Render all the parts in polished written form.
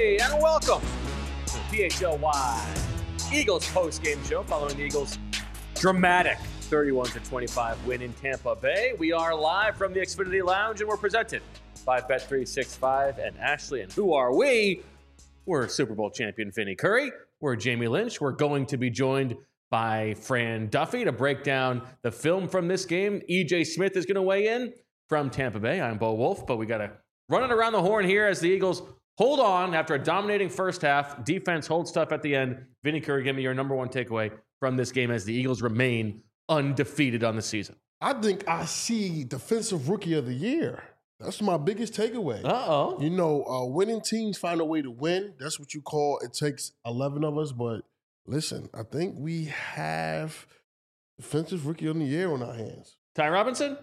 Hey, and welcome to the PHLY Eagles post-game show following the Eagles' dramatic 31-25 win in Tampa Bay. We are live from the Xfinity Lounge, and we're presented by Bet365 and Ashley. And who are we? We're Super Bowl champion Vinny Curry. We're Jamie Lynch. We're going to be joined by Fran Duffy to break down the film from this game. EJ Smith is going to weigh in from Tampa Bay. I'm Bo Wolf, but we got to run it around the horn here as the Eagles hold on after a dominating first half. Defense holds tough at the end. Vinny Curry, give me your number one takeaway from this game as the Eagles remain undefeated on the season. I think I see Defensive Rookie of the Year. That's my biggest takeaway. Uh-oh. You know, winning teams find a way to win. That's what you call it takes 11 of us. But listen, I think we have Defensive Rookie of the Year on our hands. Ty Robinson?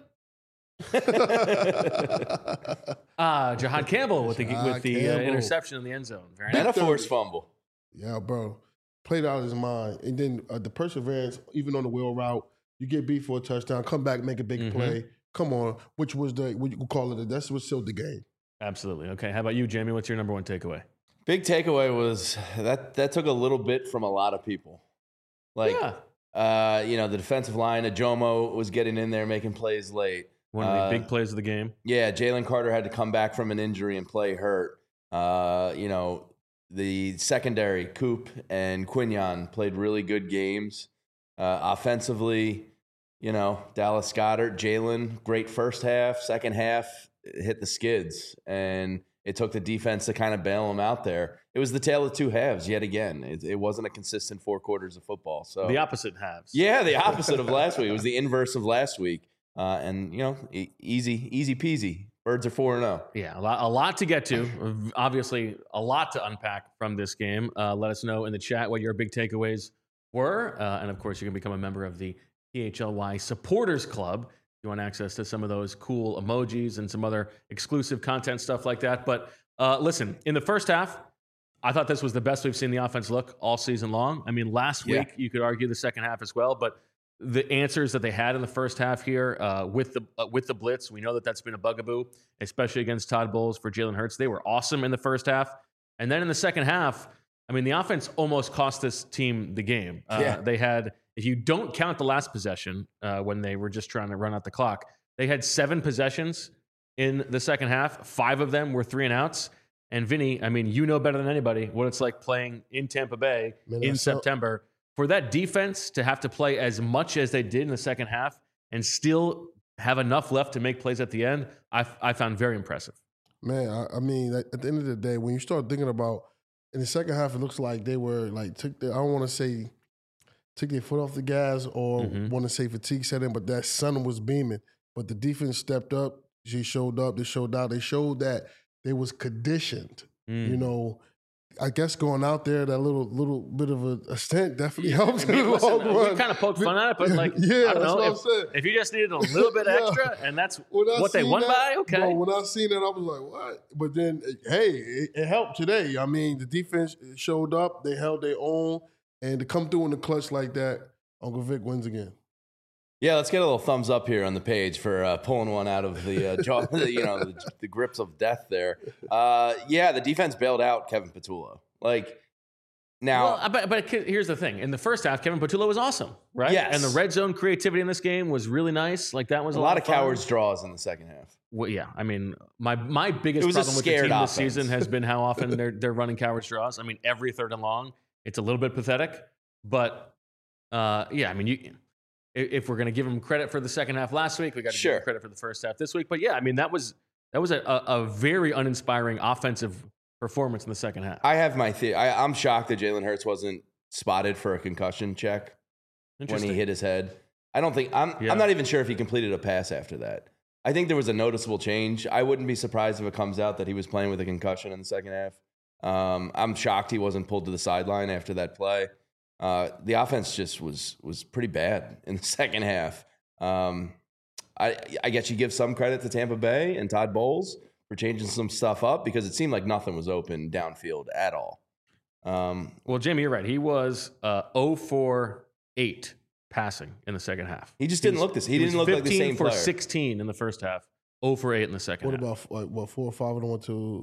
Jahad Campbell with the interception in the end zone. Very And nice. a forced fumble. Yeah, bro. Played out of his mind. And then the perseverance, even on the wheel route, you get beat for a touchdown, come back, make a big play. Come on, which was what you could call it. That's what sealed the game. Absolutely. Okay, how about you, Jamie? What's your number one takeaway? Big takeaway was that took a little bit from a lot of people. Like, the defensive line, Ajomo was getting in there, making plays late. One of the big plays of the game. Yeah, Jalen Carter had to come back from an injury and play hurt. The secondary, Coop and Quinion, played really good games. Offensively, Dallas Goedert, Jalen, great first half. Second half, hit the skids. And it took the defense to kind of bail them out there. It was the tale of two halves yet again. It wasn't a consistent 4 quarters of football. So The opposite halves. Yeah, the opposite of last week. It was the inverse of last week. Easy peasy. Birds are 4-0. Yeah, a lot to get to. Obviously, a lot to unpack from this game. Let us know in the chat what your big takeaways were. And, of course, you can become a member of the PHLY Supporters Club if you want access to some of those cool emojis and some other exclusive content, stuff like that. But listen, in the first half, I thought this was the best we've seen the offense look all season long. I mean, last week, you could argue the second half as well, but the answers that they had in the first half here with the blitz, we know that that's been a bugaboo, especially against Todd Bowles for Jalen Hurts. They were awesome in the first half. And then in the second half, I mean, the offense almost cost this team the game. They had, if you don't count the last possession when they were just trying to run out the clock, they had 7 possessions in the second half. 5 of them were 3 and outs. And Vinny, I mean, you know better than anybody what it's like playing in Tampa Bay in September. For that defense to have to play as much as they did in the second half and still have enough left to make plays at the end, I found very impressive. Man, I mean, at the end of the day, when you start thinking about in the second half, it looks like they were like took their foot off the gas or want to say fatigue set in, but that sun was beaming. But the defense stepped up. They showed up. They showed out. They showed that they was conditioned. I guess going out there, that little bit of a stint definitely helps. I mean, listen, we kind of poked fun at it, but I don't know, if you just needed a little bit extra, and that's what they won by, okay. Bro, when I seen that, I was like, what? But then, hey, it helped today. I mean, the defense showed up. They held their own. And to come through in the clutch like that, Uncle Vic wins again. Yeah, let's get a little thumbs up here on the page for pulling one out of the jaw, the grips of death there. The defense bailed out Kevin Patullo. But here's the thing: in the first half, Kevin Patullo was awesome, right? Yes. And the red zone creativity in this game was really nice. Like that was a lot of fun. cowards draws in the second half. Well, yeah, I mean, my biggest problem with the team this season has been how often they're running cowards draws. I mean, every third and long, it's a little bit pathetic. But I mean, if we're going to give him credit for the second half last week, we got to give him credit for the first half this week. But yeah, I mean, that was a very uninspiring offensive performance in the second half. I have my theory. I'm shocked that Jalen Hurts wasn't spotted for a concussion check when he hit his head. I'm not even sure if he completed a pass after that. I think there was a noticeable change. I wouldn't be surprised if it comes out that he was playing with a concussion in the second half. I'm shocked he wasn't pulled to the sideline after that play. The offense just was pretty bad in the second half. I guess you give some credit to Tampa Bay and Todd Bowles for changing some stuff up because it seemed like nothing was open downfield at all. Well, Jamie, you're right. He was 0 for 8 passing in the second half. He just didn't look this. He didn't look like the same player. 15 for 16 in the first half. 0 for 8 in the second half. What about 4 or 5 and 1 to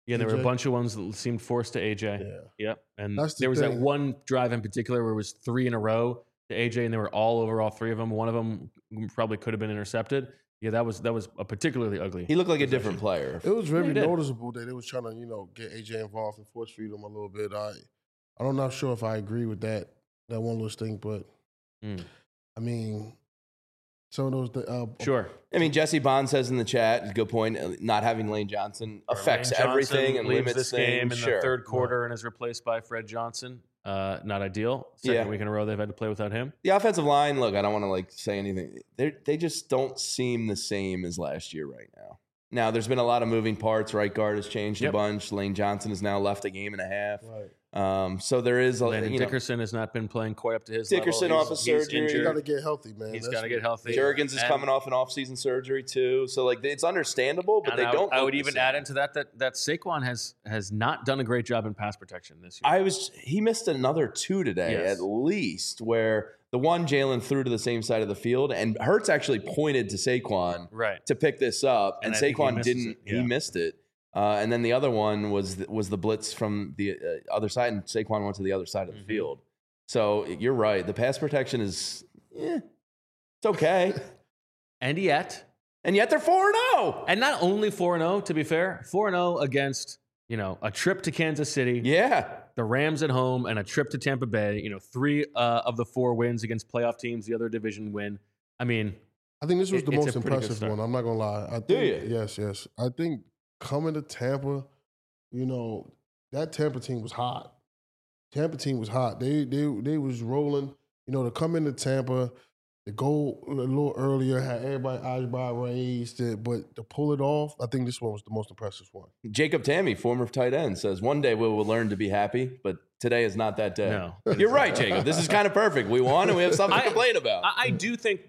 Yeah, there were a bunch of ones that seemed forced to AJ. Yeah. Yep. And there was that one drive in particular where it was 3 in a row to AJ, and they were all over all 3 of them. One of them probably could have been intercepted. Yeah, that was a particularly ugly. He looked like a different player. It was very noticeable that they was trying to, get AJ involved and force feed him a little bit. I'm not sure if I agree with that one little thing, but I mean, some of those. Sure. I mean, Jesse Bond says in the chat, good point. Not having Lane Johnson affects everything and limits this things. game in the third quarter and is replaced by Fred Johnson. Not ideal. Second week in a row they've had to play without him. The offensive line, look, I don't want to say anything. They just don't seem the same as last year right now. Now, there's been a lot of moving parts. Right guard has changed a bunch. Lane Johnson has now left a game and a half. Right. So there is a Landon Dickerson has not been playing quite up to his Dickerson level. off of surgery. He's got to get healthy, man. He's got to get healthy. Juergens is coming off an off-season surgery too. So it's understandable, but they don't. I would even add into that Saquon has not done a great job in pass protection this year. He missed another 2 today at least, where the one Jalen threw to the same side of the field, and Hurts actually pointed to Saquon to pick this up, and Saquon didn't. He missed it. And then the other one was the blitz from the other side, and Saquon went to the other side of the field. So you're right. The pass protection is, it's okay. And yet they're 4-0. And not only 4-0, to be fair, 4-0 against, a trip to Kansas City. Yeah. The Rams at home and a trip to Tampa Bay. 3 of the 4 wins against playoff teams, the other division win. I mean, I think this was the most impressive one. I'm not going to lie. Do you? Yes. I think coming to Tampa, that Tampa team was hot. They was rolling. To come into Tampa, to go a little earlier, had everybody eyebrow raised, but to pull it off, I think this one was the most impressive one. Jacob Tammy, former tight end, says, one day we will learn to be happy, but today is not that day. No. You're right, Jacob. This is kind of perfect. We won and we have something to complain about. I do think,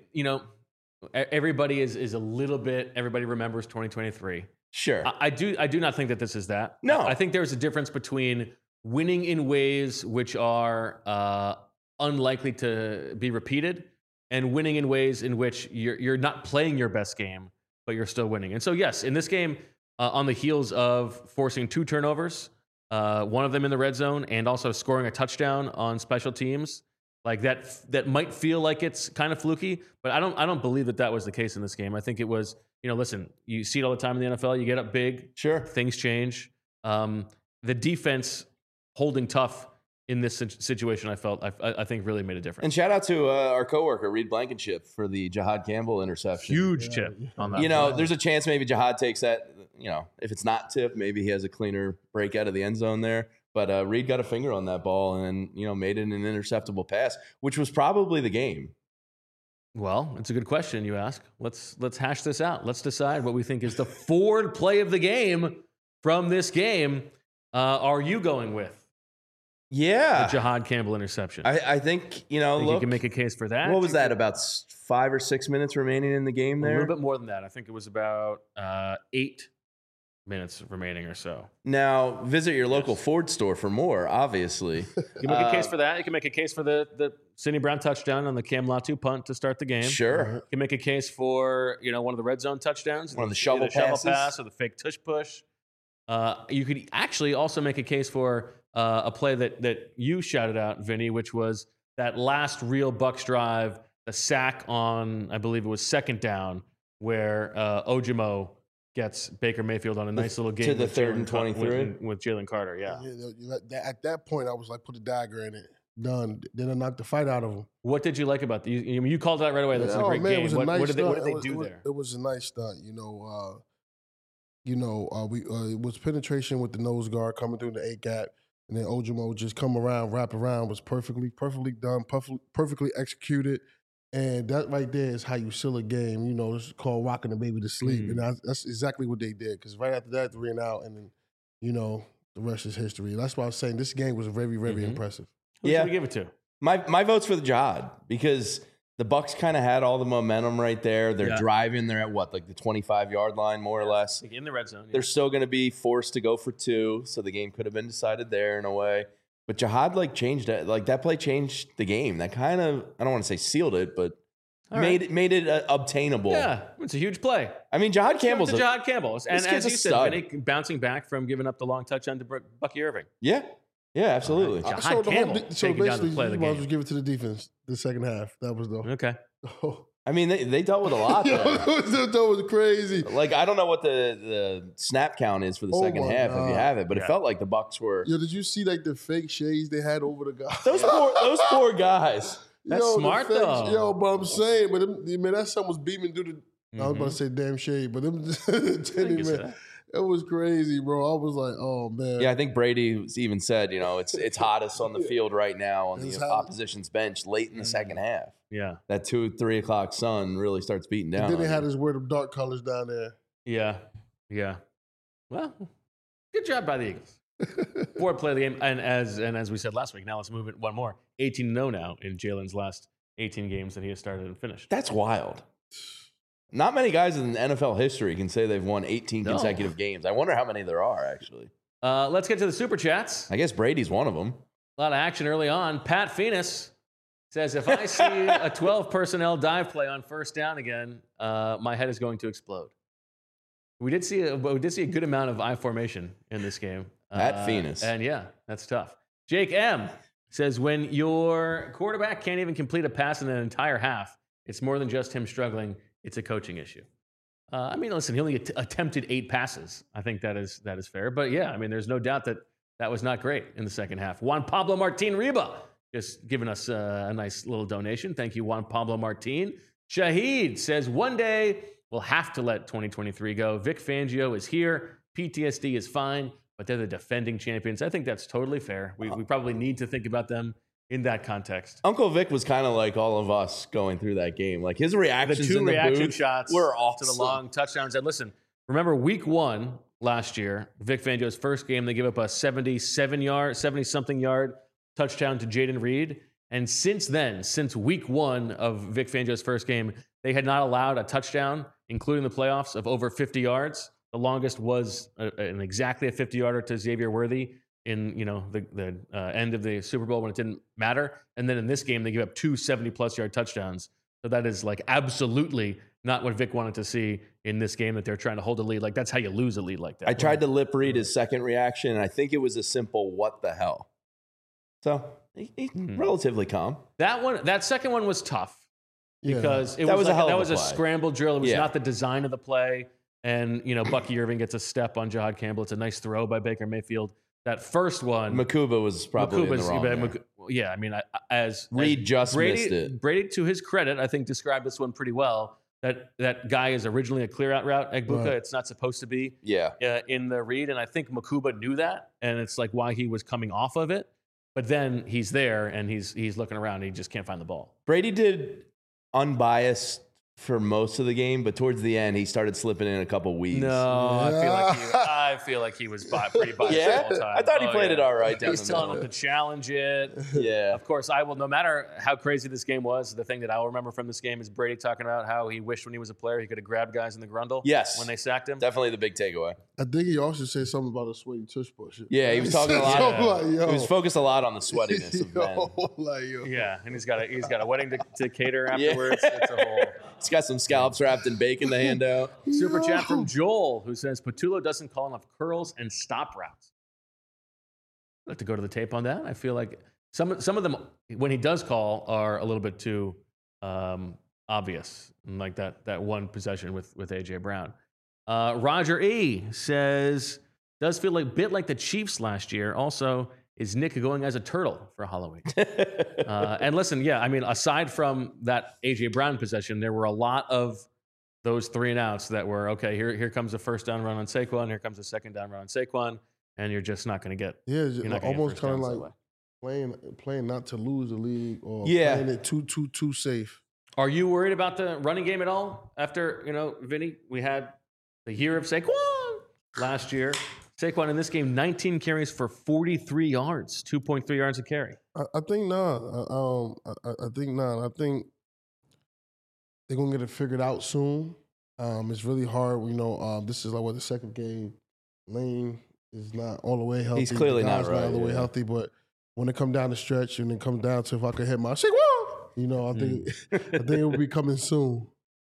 everybody is a little bit, everybody remembers 2023. Sure. I do not think that this is that. No. I think there's a difference between winning in ways which are unlikely to be repeated and winning in ways in which you're not playing your best game, but you're still winning. And so, yes, in this game, on the heels of forcing 2 turnovers, one of them in the red zone, and also scoring a touchdown on special teams, like that might feel like it's kind of fluky, but I don't believe that was the case in this game. I think it was, listen, you see it all the time in the NFL. You get up big, sure, things change. The defense holding tough in this situation, I think really made a difference. And shout out to our coworker Reed Blankenship for the Jahad Campbell interception. Huge chip on that. There's a chance maybe Jahad takes that. If it's not tipped, maybe he has a cleaner break out of the end zone there. But Reed got a finger on that ball and made it an interceptable pass, which was probably the game. Well, it's a good question you ask. Let's hash this out. Let's decide what we think is the forward play of the game from this game. Are you going with? Yeah. The Jahad Campbell interception. I think, you can make a case for that. What was that, about 5 or 6 minutes remaining in the game there? A little bit more than that. I think it was about 8 minutes remaining or so. Now, visit your local Ford store for more, obviously. You can make a case for that. You can make a case for the Sidney Brown touchdown on the Cam Latu punt to start the game. Sure. You can make a case for, one of the red zone touchdowns. One of the shovel pass or the fake tush push. You could actually also make a case for a play that you shouted out, Vinny, which was that last real Bucs drive, the sack on, I believe it was 2nd down, where Ojimo gets Baker Mayfield on a nice little game to the 3rd and 23 with Jalen Carter. Yeah. At that point, I was like, put a dagger in it. Done. Then I knocked the fight out of him. What did you like about you called it out right away? That's a great game. It was a nice what did stunt. they do there? It was a nice stunt. It was penetration with the nose guard coming through the A gap, and then Ojimo just come around, wrap around, was perfectly done, perfectly executed. And that right there is how you seal a game. It's called rocking the baby to sleep. And that's exactly what they did. Because right after that, 3 and out, and then, the rest is history. That's why I was saying this game was very, very impressive. Who should we give it to? My vote's for the Jahad, because the Bucs kind of had all the momentum right there. They're driving. They're at the 25-yard line, more or less. In the red zone. Yeah. They're still going to be forced to go for 2, so the game could have been decided there in a way. But Jahad changed that. That play changed the game. That kind of, I don't want to say sealed it, but Made it obtainable. Yeah, it's a huge play. I mean, Jahad Campbell's Jahad Campbell. And as you said, Vinny, bouncing back from giving up the long touchdown to Bucky Irving. Yeah, absolutely. Jahad Campbell taking down the play of the game. Just give it to the defense the second half. That was okay. I mean, they dealt with a lot there. That was crazy. Like, I don't know what the snap count is for the second half if you have it, but it felt like the Bucs were. Yo, did you see like the fake shades they had over the guys? Those poor guys. That's smart though. Yo, but I'm saying, man, that son was beaming through the. I was about to say damn shade, but them, man, it was crazy, bro. I was like, oh man. Yeah, I think Brady even said, it's hottest on the field right now on the opposition's bench late in the second half. Yeah, that 2-3 o'clock sun really starts beating down. And then they had his weird dark colors down there. Yeah. Well, good job by the Eagles. Fourth play of the game, and as we said last week, now let's move it one more. 18-0 now in Jalen's last 18 games that he has started and finished. That's wild. Not many guys in NFL history can say they've won 18 consecutive games. I wonder how many there are, actually. Let's get to the Super Chats. I guess Brady's one of them. A lot of action early on. Pat Phoenix says, if I see a 12 personnel dive play on first down again, my head is going to explode. We did see a good amount of I formation in this game. At Phoenix. And yeah, that's tough. Jake M says, when your quarterback can't even complete a pass in an entire half, it's more than just him struggling. It's a coaching issue. I mean, listen, he only attempted 8 passes. I think that is fair. But yeah, I mean, there's no doubt that was not great in the second half. Juan Pablo Martin Riba just giving us a nice little donation. Thank you, Juan Pablo Martin. Shahid says, one day we'll have to let 2023 go. Vic Fangio is here. PTSD is fine, but they're the defending champions. I think that's totally fair. We probably need to think about them in that context. Uncle Vic was kind of like all of us going through that game. Like his reactions, the 2 reaction booth shots were awesome. To the long touchdowns. And listen, remember week 1 last year, Vic Fangio's first game, they gave up a 70-something yard touchdown to Jaden Reed. And since then, since week 1 of Vic Fangio's first game, they had not allowed a touchdown, including the playoffs, of over 50 yards. The longest was exactly a 50-yarder to Xavier Worthy in the end of the Super Bowl when it didn't matter. And then in this game, they gave up 2 70-plus yard touchdowns. So that is like absolutely not what Vic wanted to see in this game that they're trying to hold a lead. Like that's how you lose a lead like that. I tried to lip read his second reaction, and I think it was a simple "what the hell." So he's relatively calm. That second one was tough because that was a scramble drill. It was not the design of the play. And, Bucky Irving gets a step on Jahad Campbell. It's a nice throw by Baker Mayfield. That first one, Makuba was probably in the wrong. Yeah, I mean, Reed missed it. Brady, to his credit, I think described this one pretty well. That guy is originally a clear-out route, Egbuka. Right. It's not supposed to be in the read. And I think Makuba knew that, and it's like why he was coming off of it. But then he's there, and he's looking around, and he just can't find the ball. Brady did unbiased for most of the game, but towards the end, he started slipping in a couple weeds. No, I feel like he was pretty biased the whole time. I thought he played it all right. He's telling him to challenge it. Yeah. Of course, I will. No matter how crazy this game was, the thing that I'll remember from this game is Brady talking about how he wished when he was a player he could have grabbed guys in the grundle. Yes. When they sacked him. Definitely the big takeaway. I think he also said something about a sweaty tush push. Yeah, he was talking a lot. He was focused a lot on the sweatiness of men. Yeah, and he's got a wedding to cater afterwards. It's a whole. He's got some scallops wrapped in bacon to hand out. Super chat from Joel, who says Patullo doesn't call enough curls and stop routes. I'd like to go to the tape on that. I feel like some of them, when he does call, are a little bit too obvious, like that one possession with A.J. Brown. Roger E. says, does feel like a bit like the Chiefs last year. Also, is Nick going as a turtle for Halloween? And listen, I mean, aside from that A.J. Brown possession, there were a lot of those 3 and outs that were, okay, here comes a first down run on Saquon, here comes a second down run on Saquon, and you're just not going to get. Yeah, almost kind of like playing not to lose the league or playing it too safe. Are you worried about the running game at all? After, Vinny, we had the year of Saquon last year. Saquon in this game, 19 carries for 43 yards, 2.3 yards a carry. I think not. I think not. I think they're going to get it figured out soon. It's really hard. This is like the second game. Lane is not all the way healthy. He's clearly not all the way healthy. But when it comes down the stretch and it comes down to if I could hit my Saquon, You know, I think it will be coming soon.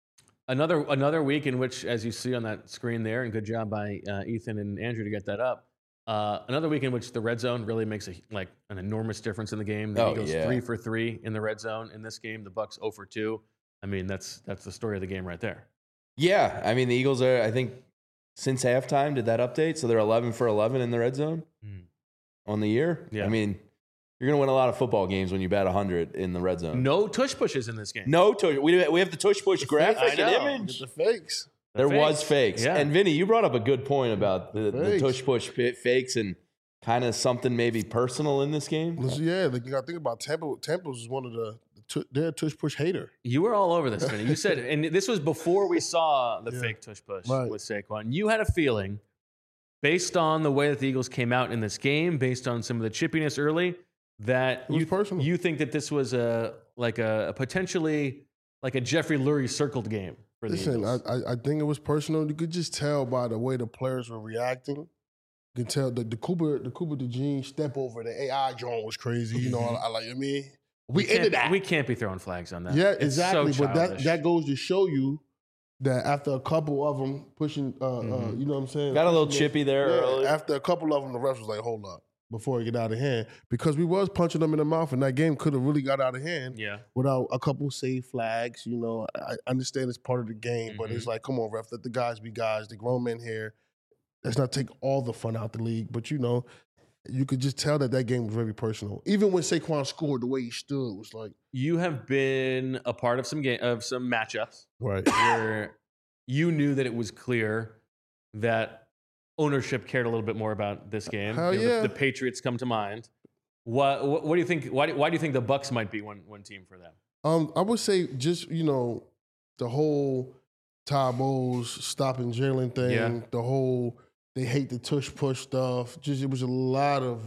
Another week in which, as you see on that screen there, and good job by Ethan and Andrew to get that up. Another week in which the red zone really makes an enormous difference in the game. The Eagles 3 for 3 in the red zone in this game. The Bucs 0 for 2. I mean, that's the story of the game right there. Yeah, I mean the Eagles are, I think, since halftime did that update, so they're 11 for 11 in the red zone on the year. Yeah. I mean, you're gonna win a lot of football games when you bat 100 in the red zone. No tush pushes in this game. No tush. We have the tush push graphic and image. The fakes. There was fakes. Yeah. And Vinny, you brought up a good point about the tush push fakes and kind of something maybe personal in this game. Yeah, you got to think about Tampa. Tampa was one of their tush push hater. You were all over this, Vinny. You said, and this was before we saw the fake tush push with Saquon. You had a feeling, based on the way that the Eagles came out in this game, based on some of the chippiness early, that you think that this was a potentially like a Jeffrey Lurie circled game for the Eagles. I think it was personal. You could just tell by the way the players were reacting. You can tell the Cooper DeJean step over the AI drone was crazy. You know, we ended that. We can't be throwing flags on that. Yeah, it's exactly. So but that goes to show you that after a couple of them pushing, you know what I'm saying? Got a little chippy there early. After a couple of them, the refs was like, hold up, before it get out of hand. Because we was punching them in the mouth, and that game could have really got out of hand without a couple save flags. You know, I understand it's part of the game, but it's like, come on, ref, let the guys be guys. The grown men here. Let's not take all the fun out the league. But, you know, you could just tell that game was very personal. Even when Saquon scored, the way he stood was like. You have been a part of some matchups. Right. Where you knew that it was clear that ownership cared a little bit more about this game. Hell yeah. The Patriots come to mind. What do you think? Why do you think the Bucs might be one team for them? I would say just, you know, the whole Ty Bowles stopping Jalen thing, the whole they hate the tush push stuff. Just it was a lot of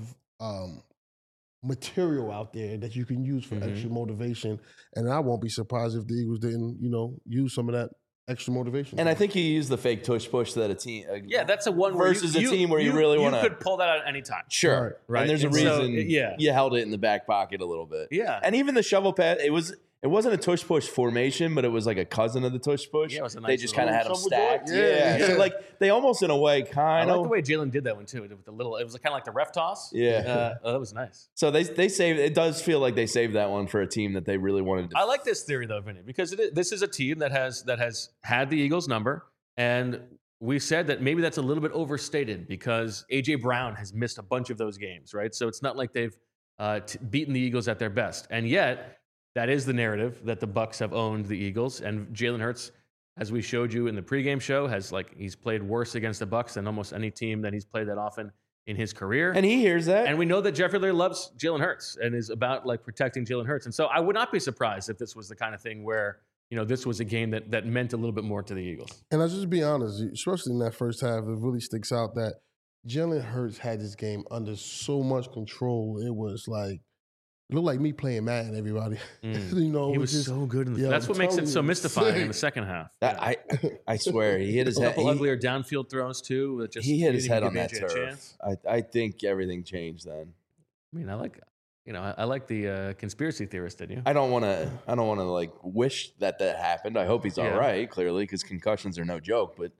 material out there that you can use for extra motivation. And I won't be surprised if the Eagles didn't, you know, use some of that extra motivation. And I think you use the fake tush push that a team. That's a one versus a team where you really want to. You could pull that out at any time. Sure, right. And there's a reason. You held it in the back pocket a little bit. Yeah, and even the shovel pass, it wasn't a tush push formation, but it was like a cousin of the tush push. Yeah, it was a nice they just kind of had them stacked. Yeah. So like they almost in a way kind of. I like the way Jalen did that one too. With the little, it was kind of like the ref toss. Yeah, that was nice. So they saved. It does feel like they saved that one for a team that they really wanted to. I like this theory though, Vinny, because this is a team that has had the Eagles number, and we said that maybe that's a little bit overstated because AJ Brown has missed a bunch of those games, right? So it's not like they've beaten the Eagles at their best, and yet. That is the narrative that the Bucs have owned the Eagles, and Jalen Hurts, as we showed you in the pregame show, he's played worse against the Bucs than almost any team that he's played that often in his career. And he hears that. And we know that Jeffrey Lurie loves Jalen Hurts and is about like protecting Jalen Hurts. And so I would not be surprised if this was the kind of thing where this was a game that meant a little bit more to the Eagles. And I'll just be honest, especially in that first half, it really sticks out that Jalen Hurts had this game under so much control. It was like. It looked like me playing Madden, everybody. He was so good. That's what makes it so mystifying in the second half. I swear, he hit his head. Uglier downfield throws, too. He hit his head on that turf. I think everything changed then. I mean, I like the conspiracy theorist in you. I don't want to like wish that happened. I hope he's all right, clearly, because concussions are no joke. But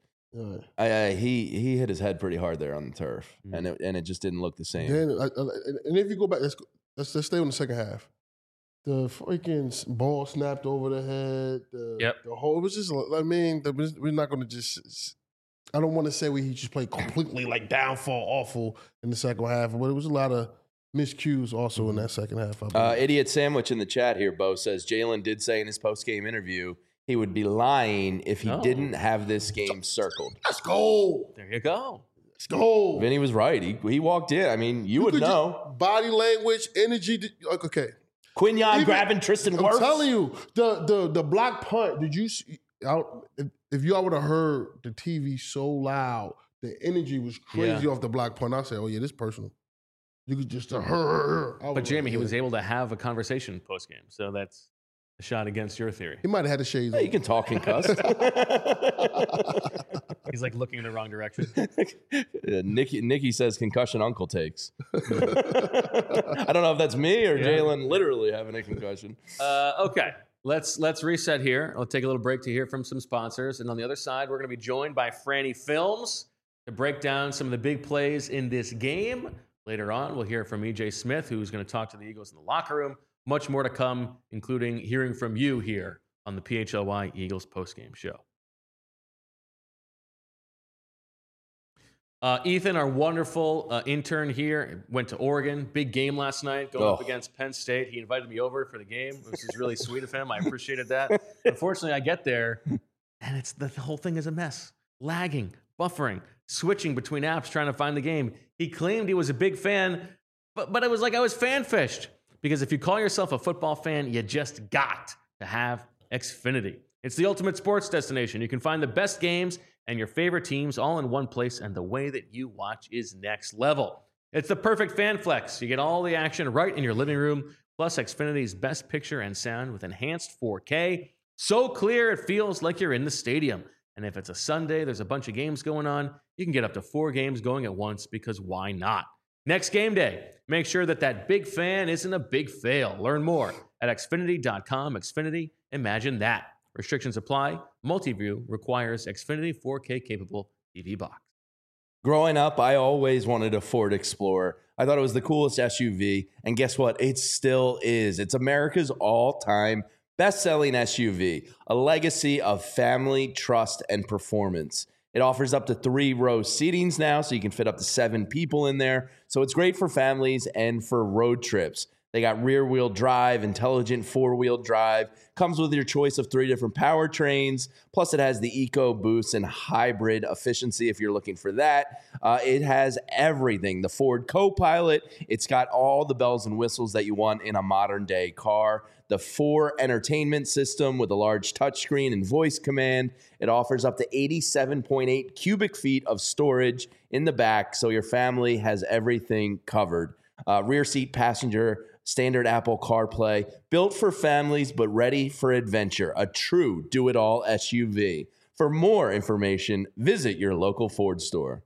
he hit his head pretty hard there on the turf, and it just didn't look the same. And if you go back, let's stay on the second half. The freaking ball snapped over the head. The whole, it was just, I mean, we're not going to just, I don't want to say he just played completely like downfall awful in the second half, but it was a lot of miscues also in that second half. Idiot Sandwich in the chat here, Bo, says Jalen did say in his post-game interview he would be lying if he didn't have this game circled. Let's go. There you go. Let's go. Vinny was right. He walked in. I mean, you would know. Body language, energy. Okay. Quinyon grabbing Tristan Wirfs. I'm telling you, the block punt, did you see? If y'all would have heard the TV so loud, the energy was crazy off the block punt. I said, oh, yeah, this is personal. You could just, But Jamie, he was able to have a conversation post-game. So that's a shot against your theory. He might have had the shades on. You can talk concussed. He's like looking in the wrong direction. Nikki says concussion uncle takes. I don't know if that's me or Jalen literally having a concussion. Okay, let's reset here. I'll take a little break to hear from some sponsors. And on the other side, we're going to be joined by Franny Films to break down some of the big plays in this game. Later on, we'll hear from EJ Smith, who's going to talk to the Eagles in the locker room. Much more to come, including hearing from you here on the PHLY Eagles postgame show. Ethan, our wonderful intern here, went to Oregon. Big game last night, going up against Penn State. He invited me over for the game, which is really sweet of him. I appreciated that. Unfortunately, I get there, and the whole thing is a mess. Lagging, buffering, switching between apps, trying to find the game. He claimed he was a big fan, but it was like I was fan-fished. Because if you call yourself a football fan, you just got to have Xfinity. It's the ultimate sports destination. You can find the best games and your favorite teams all in one place, and the way that you watch is next level. It's the perfect fan flex. You get all the action right in your living room, plus Xfinity's best picture and sound with enhanced 4K. So clear, it feels like you're in the stadium. And if it's a Sunday, there's a bunch of games going on, you can get up to 4 games going at once, because why not? Next game day, make sure that big fan isn't a big fail. Learn more at Xfinity.com. Xfinity, imagine that. Restrictions apply. Multiview requires Xfinity 4K capable TV box. Growing up, I always wanted a Ford Explorer. I thought it was the coolest SUV, and guess what? It still is. It's America's all-time best-selling SUV, a legacy of family, trust, and performance. It offers up to 3-row seatings now, so you can fit up to 7 people in there. So it's great for families and for road trips. They got rear-wheel drive, intelligent 4-wheel drive. Comes with your choice of 3 different powertrains. Plus, it has the EcoBoost and hybrid efficiency if you're looking for that. It has everything. The Ford Copilot. It's got all the bells and whistles that you want in a modern-day car. The 4 entertainment system with a large touchscreen and voice command. It offers up to 87.8 cubic feet of storage in the back, so your family has everything covered. Rear seat passenger, standard Apple CarPlay, built for families but ready for adventure. A true do-it-all SUV. For more information, visit your local Ford store.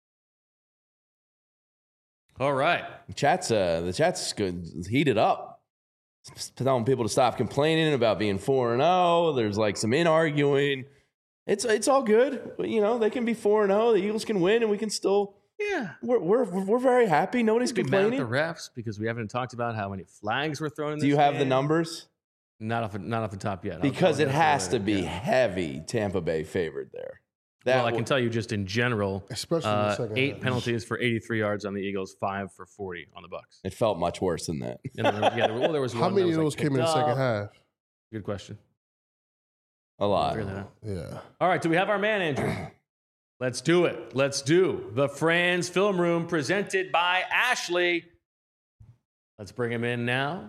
All right. The chat's good. Heated up. Telling people to stop complaining about being 4-0. There's like some arguing. It's all good. You know, they can be 4-0. The Eagles can win, and we can still. Yeah, we're very happy. Nobody's complaining. Mad at the refs because we haven't talked about how many flags were thrown in this Do you have game. the numbers? Not off the top yet. Because it has to be heavy Tampa Bay favored there. Well, I can tell you just in general, especially in the second 8 half. penalties for 83 yards on the Eagles, 5 for 40 on the Bucs. It felt much worse than that. There was How one many that of was those came in the second half? Good question. A lot. Yeah. All right, do we have our man, Andrew? Let's do it. Let's do the Franz Film Room presented by Ashley. Let's bring him in now.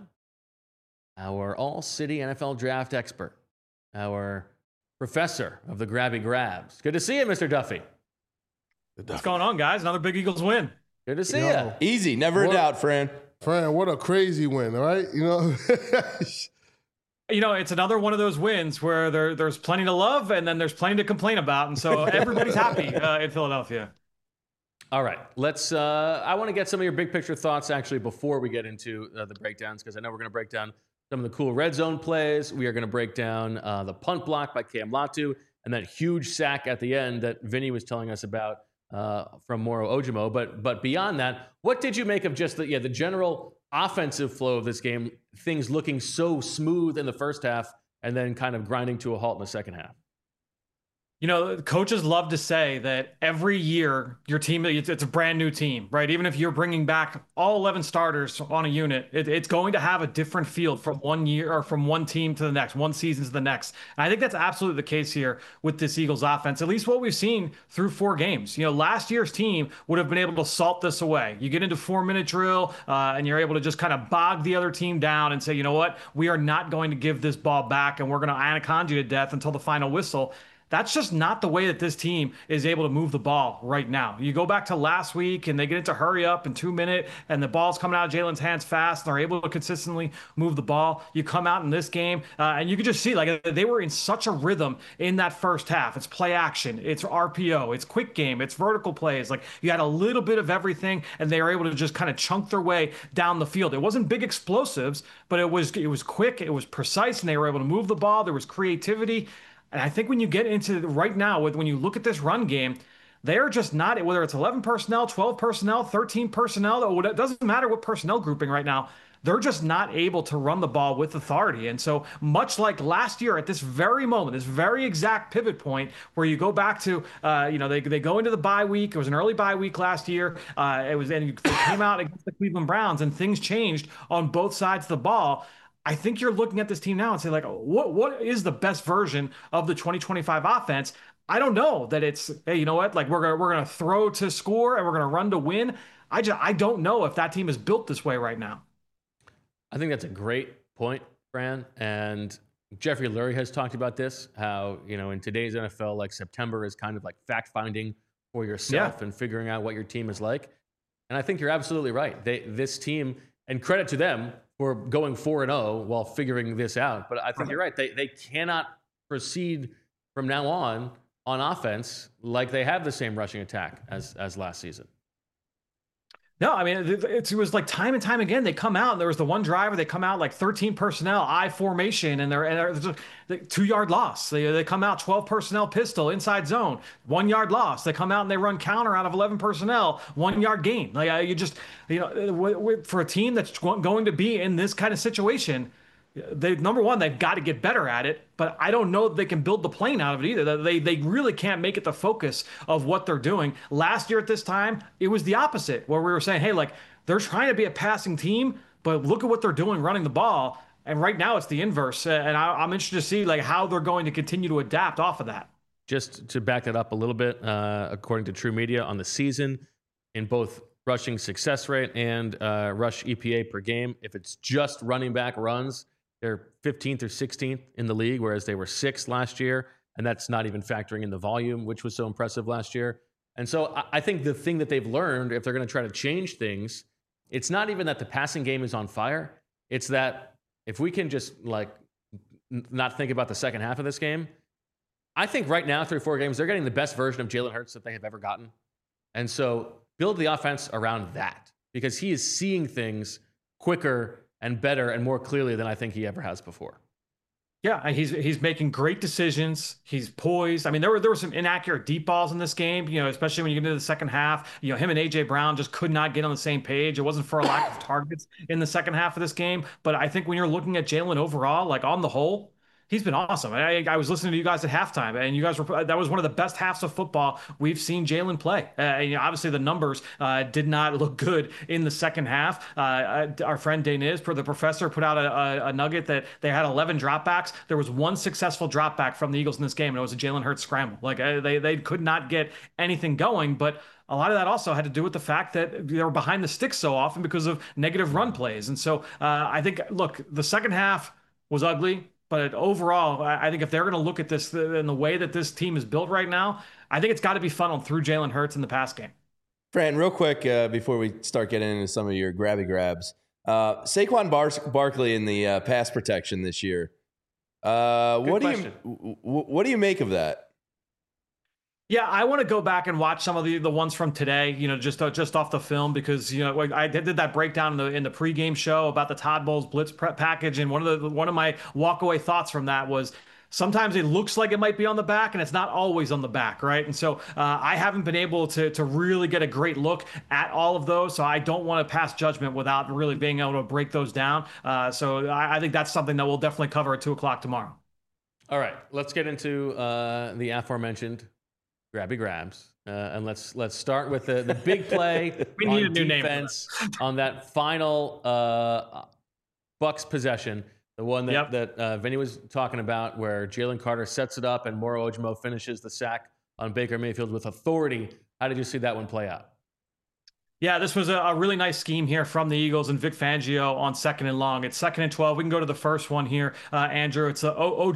Our all-city NFL draft expert. Our professor of the Grabby Grabs. Good to see you, Mr. Duffy. What's going on, guys? Another big Eagles win. Good to see you. Easy. Never a doubt, Fran. Fran, what a crazy win, all right? You know? You know, it's another one of those wins where there's plenty to love and then there's plenty to complain about. And so everybody's happy in Philadelphia. All right. I want to get some of your big picture thoughts actually before we get into the breakdowns, because I know we're going to break down some of the cool red zone plays. We are going to break down the punt block by Cam Latu and that huge sack at the end that Vinny was telling us about from Moro Ojimo. But beyond that, what did you make of just the general offensive flow of this game, things looking so smooth in the first half and then kind of grinding to a halt in the second half? You know, coaches love to say that every year your team, it's a brand new team, right? Even if you're bringing back all 11 starters on a unit, it's going to have a different feel from one year or from one team to the next, one season to the next. And I think that's absolutely the case here with this Eagles offense, at least what we've seen through 4 games. You know, last year's team would have been able to salt this away. You get into 4-minute drill and you're able to just kind of bog the other team down and say, you know what, we are not going to give this ball back and we're going to anaconda you to death until the final whistle. That's just not the way that this team is able to move the ball right now. You go back to last week and they get into hurry up in 2 minutes and the ball's coming out of Jalen's hands fast and they're able to consistently move the ball. You come out in this game and you can just see like they were in such a rhythm in that first half. It's play action, it's RPO, it's quick game, it's vertical plays. Like you had a little bit of everything and they were able to just kind of chunk their way down the field. It wasn't big explosives, but it was quick, it was precise, and they were able to move the ball. There was creativity. And I think when you get into right now, when you look at this run game, they're just not, whether it's 11 personnel, 12 personnel, 13 personnel, it doesn't matter what personnel grouping right now, they're just not able to run the ball with authority. And so much like last year at this very moment, this very exact pivot point where you go back to, they go into the bye week. It was an early bye week last year. They came out against the Cleveland Browns and things changed on both sides of the ball. I think you're looking at this team now and say, like, what is the best version of the 2025 offense? I don't know that it's, hey, you know what? Like, we're gonna throw to score and we're gonna run to win. I don't know if that team is built this way right now. I think that's a great point, Fran. And Jeffrey Lurie has talked about this, how, in today's NFL, like September is kind of like fact-finding for yourself and figuring out what your team is like. And I think you're absolutely right. This team, and credit to them for going 4-0 while figuring this out. But I think you're right. They cannot proceed from now on offense like they have the same rushing attack as last season. No, I mean, it was like time and time again, they come out and there was the one driver, they come out like 13 personnel, I formation, and they're 2-yard loss. They come out 12 personnel pistol, inside zone, 1 yard loss. They come out and they run counter out of 11 personnel, 1 yard gain. Like for a team that's going to be in this kind of situation, number one, they've got to get better at it, but I don't know that they can build the plane out of it either. They really can't make it the focus of what they're doing. Last year at this time, it was the opposite, where we were saying, hey, like, they're trying to be a passing team, but look at what they're doing running the ball. And right now it's the inverse. And I'm interested to see like how they're going to continue to adapt off of that. Just to back that up a little bit, according to True Media, on the season, in both rushing success rate and rush EPA per game, if it's just running back runs, they're 15th or 16th in the league, whereas they were 6th last year. And that's not even factoring in the volume, which was so impressive last year. And so I think the thing that they've learned, if they're going to try to change things, it's not even that the passing game is on fire. It's that if we can just not think about the second half of this game, I think right now, through 4 games, they're getting the best version of Jalen Hurts that they have ever gotten. And so build the offense around that, because he is seeing things quicker and better and more clearly than I think he ever has before. Yeah, he's making great decisions. He's poised. I mean, there were some inaccurate deep balls in this game, especially when you get into the second half. Him and A.J. Brown just could not get on the same page. It wasn't for a lack of targets in the second half of this game. But I think when you're looking at Jalen overall, like on the whole, he's been awesome. I was listening to you guys at halftime, and you guys that was one of the best halves of football we've seen Jalen play. Obviously, the numbers did not look good in the second half. Our friend Deniz, the professor, put out a nugget that they had 11 dropbacks. There was one successful dropback from the Eagles in this game, and it was a Jalen Hurts scramble. Like they could not get anything going, but a lot of that also had to do with the fact that they were behind the sticks so often because of negative run plays. And so I think, look, the second half was ugly. But overall, I think if they're going to look at this in the way that this team is built right now, I think it's got to be funneled through Jalen Hurts in the pass game. Fran, real quick, before we start getting into some of your grabby grabs, Saquon Barkley in the pass protection this year. What do you make of that? Yeah, I want to go back and watch some of the ones from today, just off the film, because I did that breakdown in the pregame show about the Todd Bowles blitz prep package, and one of my walkaway thoughts from that was sometimes it looks like it might be on the back, and it's not always on the back, right? And so I haven't been able to really get a great look at all of those, so I don't want to pass judgment without really being able to break those down. So I think that's something that we'll definitely cover at 2:00 tomorrow. All right, let's get into the aforementioned grabby grabs, and let's start with the big play. We need a new defense name on that final Bucs possession, the one that Vinny was talking about, where Jalen Carter sets it up and Moro Ojomo finishes the sack on Baker Mayfield with authority. How did you see that one play out? Yeah, this was a really nice scheme here from the Eagles and Vic Fangio on 2nd and long. It's 2nd and 12. We can go to the first one here, Andrew. It's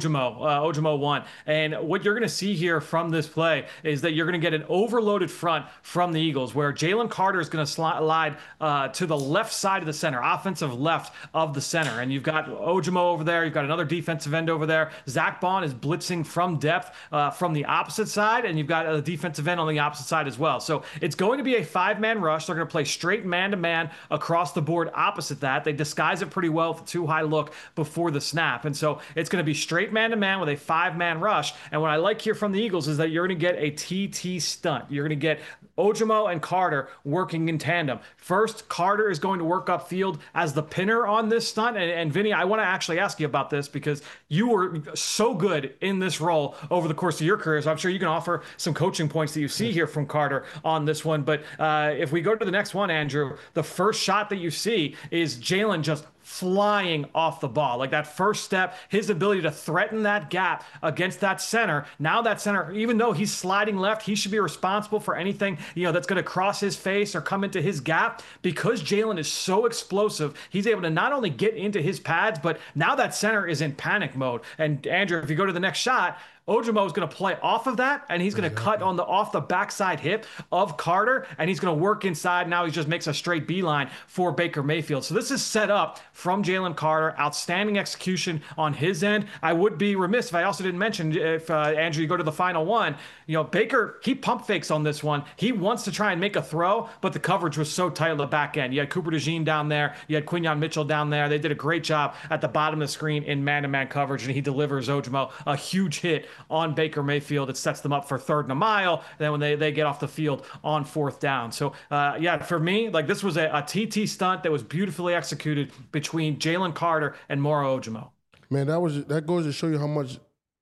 Ojimo 1. And what you're going to see here from this play is that you're going to get an overloaded front from the Eagles, where Jalen Carter is going to slide to the left side of the center, offensive left of the center. And you've got Ojimo over there. You've got another defensive end over there. Zach Bond is blitzing from depth from the opposite side, and you've got a defensive end on the opposite side as well. So it's going to be a 5-man rush. They're going to play straight man-to-man across the board opposite that. They disguise it pretty well with a 2-high look before the snap. And so it's going to be straight man-to-man with a 5-man rush. And what I like here from the Eagles is that you're going to get a TT stunt. You're going to get Ojimo and Carter working in tandem. First, Carter is going to work upfield as the pinner on this stunt. And Vinny, I want to actually ask you about this because you were so good in this role over the course of your career. So I'm sure you can offer some coaching points that you see here from Carter on this one. But if we go to the next one, Andrew, the first shot that you see is Jalen just flying off the ball. Like that first step, his ability to threaten that gap against that center. Now that center, even though he's sliding left, he should be responsible for anything, that's going to cross his face or come into his gap. Because Jalen is so explosive, he's able to not only get into his pads, but now that center is in panic mode. And Andrew, if you go to the next shot, Ojimo is going to play off of that, and he's going to cut off the backside hip of Carter, and he's going to work inside. Now he just makes a straight beeline for Baker Mayfield. So this is set up from Jalen Carter. Outstanding execution on his end. I would be remiss if I also didn't mention, if Andrew, you go to the final one, Baker, he pump fakes on this one. He wants to try and make a throw, but the coverage was so tight on the back end. You had Cooper DeJean down there. You had Quinyon Mitchell down there. They did a great job at the bottom of the screen in man-to-man coverage, and he delivers Ojimo a huge hit on Baker Mayfield. It sets them up for 3rd and a mile. And then when they get off the field on 4th down. So for me, like this was a TT stunt that was beautifully executed between Jalen Carter and Moro Ojimo. Man, that goes to show you how much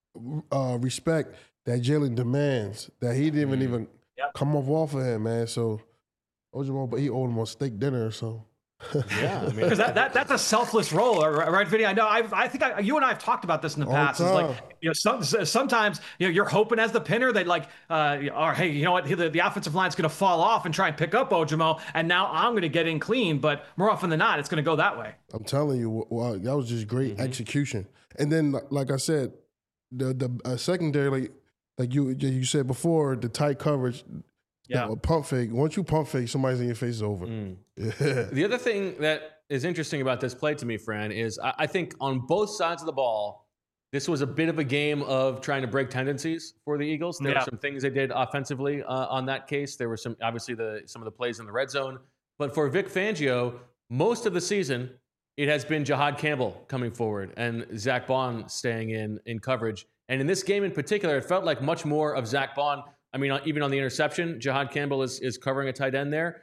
respect that Jalen demands, that he didn't even come off of him, man. So Ojimo, but he owed him a steak dinner or so. Yeah, because that's a selfless role, right, Vinny? I know. I think you and I have talked about this in the past. It's like sometimes you're hoping as the pinner that or hey, you know what, the offensive line's going to fall off and try and pick up Ojimo, and now I'm going to get in clean. But more often than not, it's going to go that way. I'm telling you, that was just great execution. And then, like I said, the secondary, like you said before, the tight coverage. Yeah, pump fake. Once you pump fake, somebody's in your face is over. Yeah. The other thing that is interesting about this play to me, Fran, is I think on both sides of the ball, this was a bit of a game of trying to break tendencies for the Eagles. There were some things they did offensively on that case. There were some of the plays in the red zone. But for Vic Fangio, most of the season, it has been Jahad Campbell coming forward and Zach Bond staying in coverage. And in this game in particular, it felt like much more of Zach Bond. I mean, even on the interception, Jahad Campbell is covering a tight end there.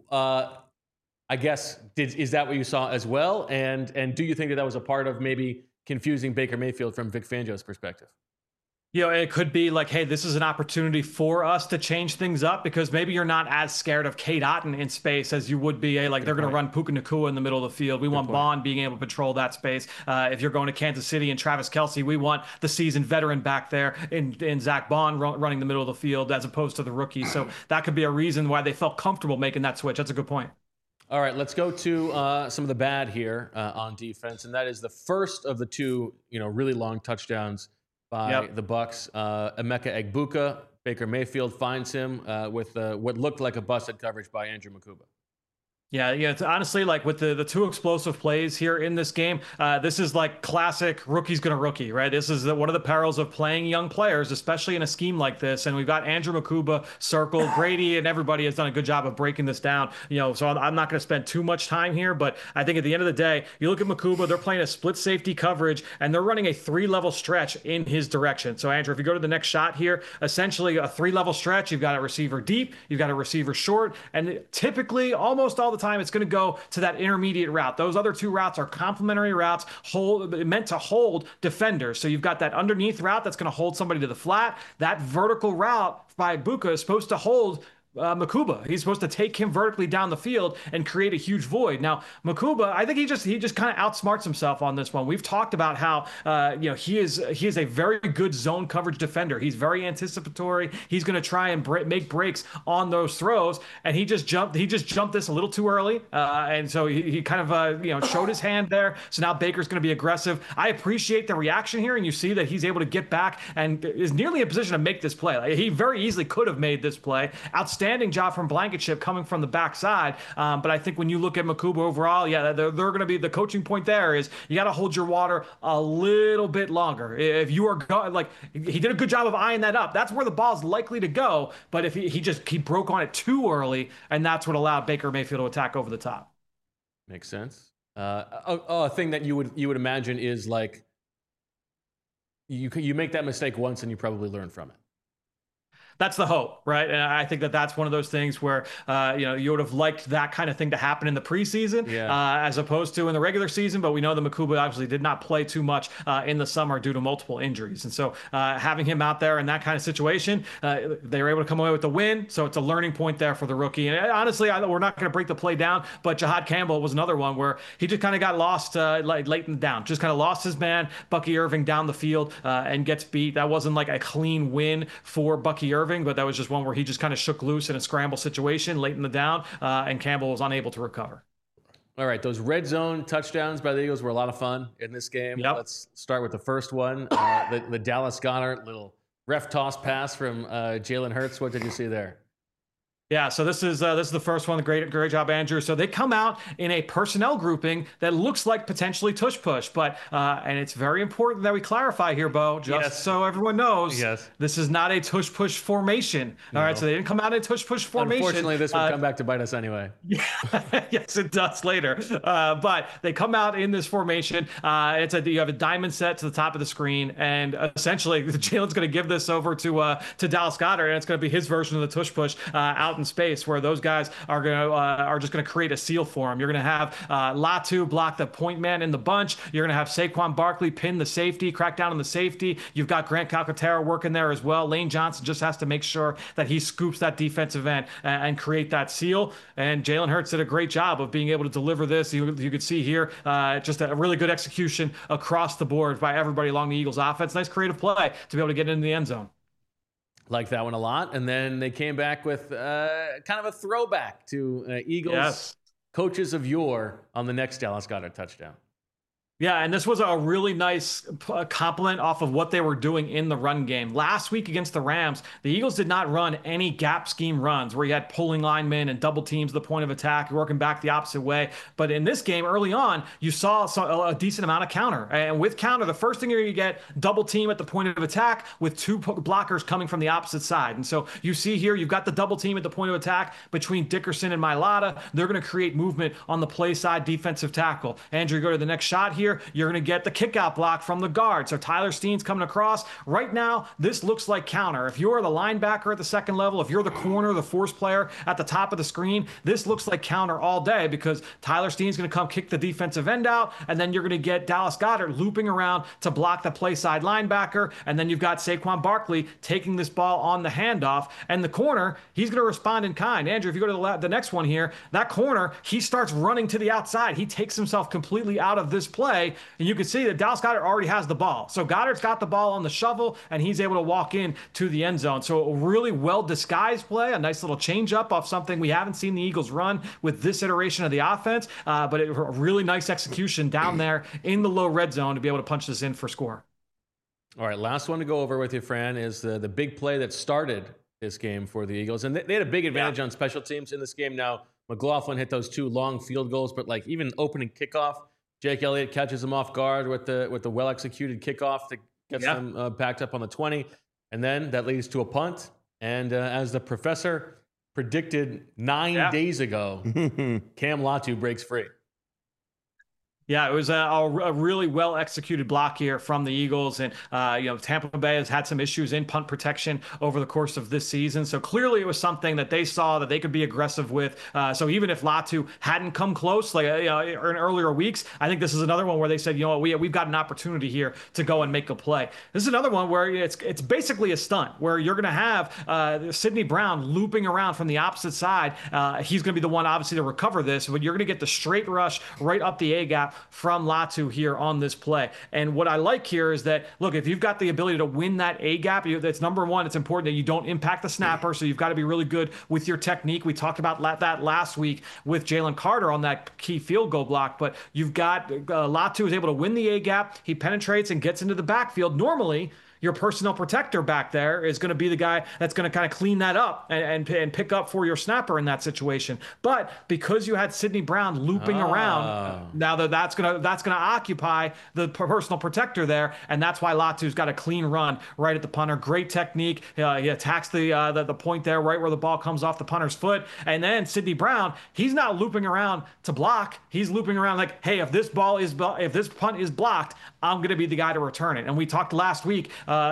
I guess, is that what you saw as well? And do you think that was a part of maybe confusing Baker Mayfield from Vic Fangio's perspective? It could be like, hey, this is an opportunity for us to change things up because maybe you're not as scared of Cade Otton in space as you would be. They're going to run Puka Nacua in the middle of the field. We want Bond being able to patrol that space. If you're going to Kansas City and Travis Kelce, we want the seasoned veteran back there in Zach Bond running the middle of the field as opposed to the rookie. So that could be a reason why they felt comfortable making that switch. That's a good point. All right, let's go to some of the bad here on defense, and that is the first of the two, really long touchdowns by the Bucs. Emeka Egbuka, Baker Mayfield finds him with what looked like a busted coverage by Andrew Mukuba. Yeah, it's honestly like with the two explosive plays here in this game, this is like classic rookie's gonna rookie, right? This is one of the perils of playing young players, especially in a scheme like this. And we've got Andrew Mukuba circled. Brady and everybody has done a good job of breaking this down. So I'm not going to spend too much time here, but I think at the end of the day, you look at Mukuba, they're playing a split safety coverage, and they're running a 3-level stretch in his direction. So Andrew, if you go to the next shot here, essentially a 3-level stretch, you've got a receiver deep, you've got a receiver short, and typically almost all the time it's going to go to that intermediate route. Those other two routes are complementary routes meant to hold defenders. So you've got that underneath route that's going to hold somebody to the flat. That vertical route by Egbuka is supposed to hold Makuba. He's supposed to take him vertically down the field and create a huge void. Now, Makuba, I think he just kind of outsmarts himself on this one. We've talked about how he is a very good zone coverage defender. He's very anticipatory. He's going to try and make breaks on those throws, and he just jumped this a little too early, and so he kind of showed his hand there. So now Baker's going to be aggressive. I appreciate the reaction here, and you see that he's able to get back and is nearly in position to make this play. Like, he very easily could have made this play. Outstanding job from Blankenship coming from the backside. But I think when you look at Makuba overall, yeah, they're going to be, the coaching point there is you got to hold your water a little bit longer. If you are he did a good job of eyeing that up. That's where the ball's likely to go. But if he broke on it too early, and that's what allowed Baker Mayfield to attack over the top. Makes sense. A thing that you would imagine is like you make that mistake once and you probably learn from it. That's the hope, right? And I think that that's one of those things where you would have liked that kind of thing to happen in the preseason, as opposed to in the regular season. But we know that Makuba obviously did not play too much in the summer due to multiple injuries, and so having him out there in that kind of situation, they were able to come away with the win. So it's a learning point there for the rookie. And honestly, we're not going to break the play down, but Jahad Campbell was another one where he just kind of got lost late in the down, just kind of lost his man, Bucky Irving, down the field and gets beat. That wasn't like a clean win for Bucky Irving, but that was just one where he just kind of shook loose in a scramble situation late in the down, and Campbell was unable to recover. All right, those red zone touchdowns by the Eagles were a lot of fun in this game. Yep. Let's start with the first one, the Dallas Goedert little ref toss pass from Jalen Hurts. What did you see there? Yeah, so this is the first one. Great job, Andrew. So they come out in a personnel grouping that looks like potentially tush push, but and it's very important that we clarify here, Bo, just so everyone knows. Yes. This is not a tush push formation. No. All right, so they didn't come out in a tush push formation. Unfortunately, this would come back to bite us anyway. Yes, it does later. But they come out in this formation. You have a diamond set to the top of the screen, and essentially Jalen's going to give this over to Dallas Goedert, and it's going to be his version of the tush push out in space, where those guys are just going to create a seal for him. You're going to have Latu block the point man in the bunch. You're going to have Saquon Barkley pin the safety, crack down on the safety. You've got Grant Calcaterra working there as well. Lane Johnson just has to make sure that he scoops that defensive end and create that seal. And Jalen Hurts did a great job of being able to deliver this. You could see here just a really good execution across the board by everybody along the Eagles offense. Nice creative play to be able to get into the end zone. Like that one a lot. And then they came back with kind of a throwback to Eagles coaches of yore on the next Dallas Goedert touchdown. Yeah, and this was a really nice compliment off of what they were doing in the run game. Last week against the Rams, the Eagles did not run any gap scheme runs where you had pulling linemen and double teams the point of attack, working back the opposite way. But in this game, early on, you saw a decent amount of counter. And with counter, the first thing you get, double team at the point of attack with two blockers coming from the opposite side. And so you see here, you've got the double team at the point of attack between Dickerson and Mailata. They're going to create movement on the play side defensive tackle. Andrew, go to the next shot here. You're going to get the kick-out block from the guard. So Tyler Steen's coming across. Right now, this looks like counter. If you're the linebacker at the second level, if you're the corner, the force player at the top of the screen, this looks like counter all day, because Tyler Steen's going to come kick the defensive end out, and then you're going to get Dallas Goedert looping around to block the play side linebacker, and then you've got Saquon Barkley taking this ball on the handoff, and the corner, he's going to respond in kind. Andrew, if you go to the next one here, that corner, he starts running to the outside. He takes himself completely out of this play, and you can see that Dallas Goedert already has the ball. So Goddard's got the ball on the shovel, and he's able to walk in to the end zone. So a really well-disguised play, a nice little change-up off something we haven't seen the Eagles run with this iteration of the offense, but a really nice execution down there in the low red zone to be able to punch this in for score. All right, last one to go over with you, Fran, is the big play that started this game for the Eagles. And they had a big advantage on special teams in this game. Now, McLaughlin hit those two long field goals, but like even opening kickoff, Jake Elliott catches him off guard with the well-executed kickoff that gets them backed up on the 20. And then that leads to a punt. And as the professor predicted 9 days ago, Cam Latu breaks free. Yeah, it was a really well executed block here from the Eagles, and Tampa Bay has had some issues in punt protection over the course of this season. So clearly, it was something that they saw that they could be aggressive with. So even if Latu hadn't come close, like in earlier weeks, I think this is another one where they said, we've got an opportunity here to go and make a play. This is another one where it's basically a stunt where you're going to have Sidney Brown looping around from the opposite side. He's going to be the one obviously to recover this, but you're going to get the straight rush right up the A gap from Latu here on this play. And what I like here is that, look, if you've got the ability to win that A gap, that's number one. It's important that you don't impact the snapper. So you've got to be really good with your technique. We talked about that last week with Jalen Carter on that key field goal block, but you've got Latu is able to win the A gap. He penetrates and gets into the backfield. Normally, your personnel protector back there is going to be the guy that's going to kind of clean that up and pick up for your snapper in that situation. But because you had Sidney Brown looping around, now that's going to occupy the personal protector there, and that's why Latu's got a clean run right at the punter. Great technique. He attacks the point there right where the ball comes off the punter's foot, and then Sidney Brown, he's not looping around to block. He's looping around like, hey, if this punt is blocked, I'm going to be the guy to return it. And we talked last week.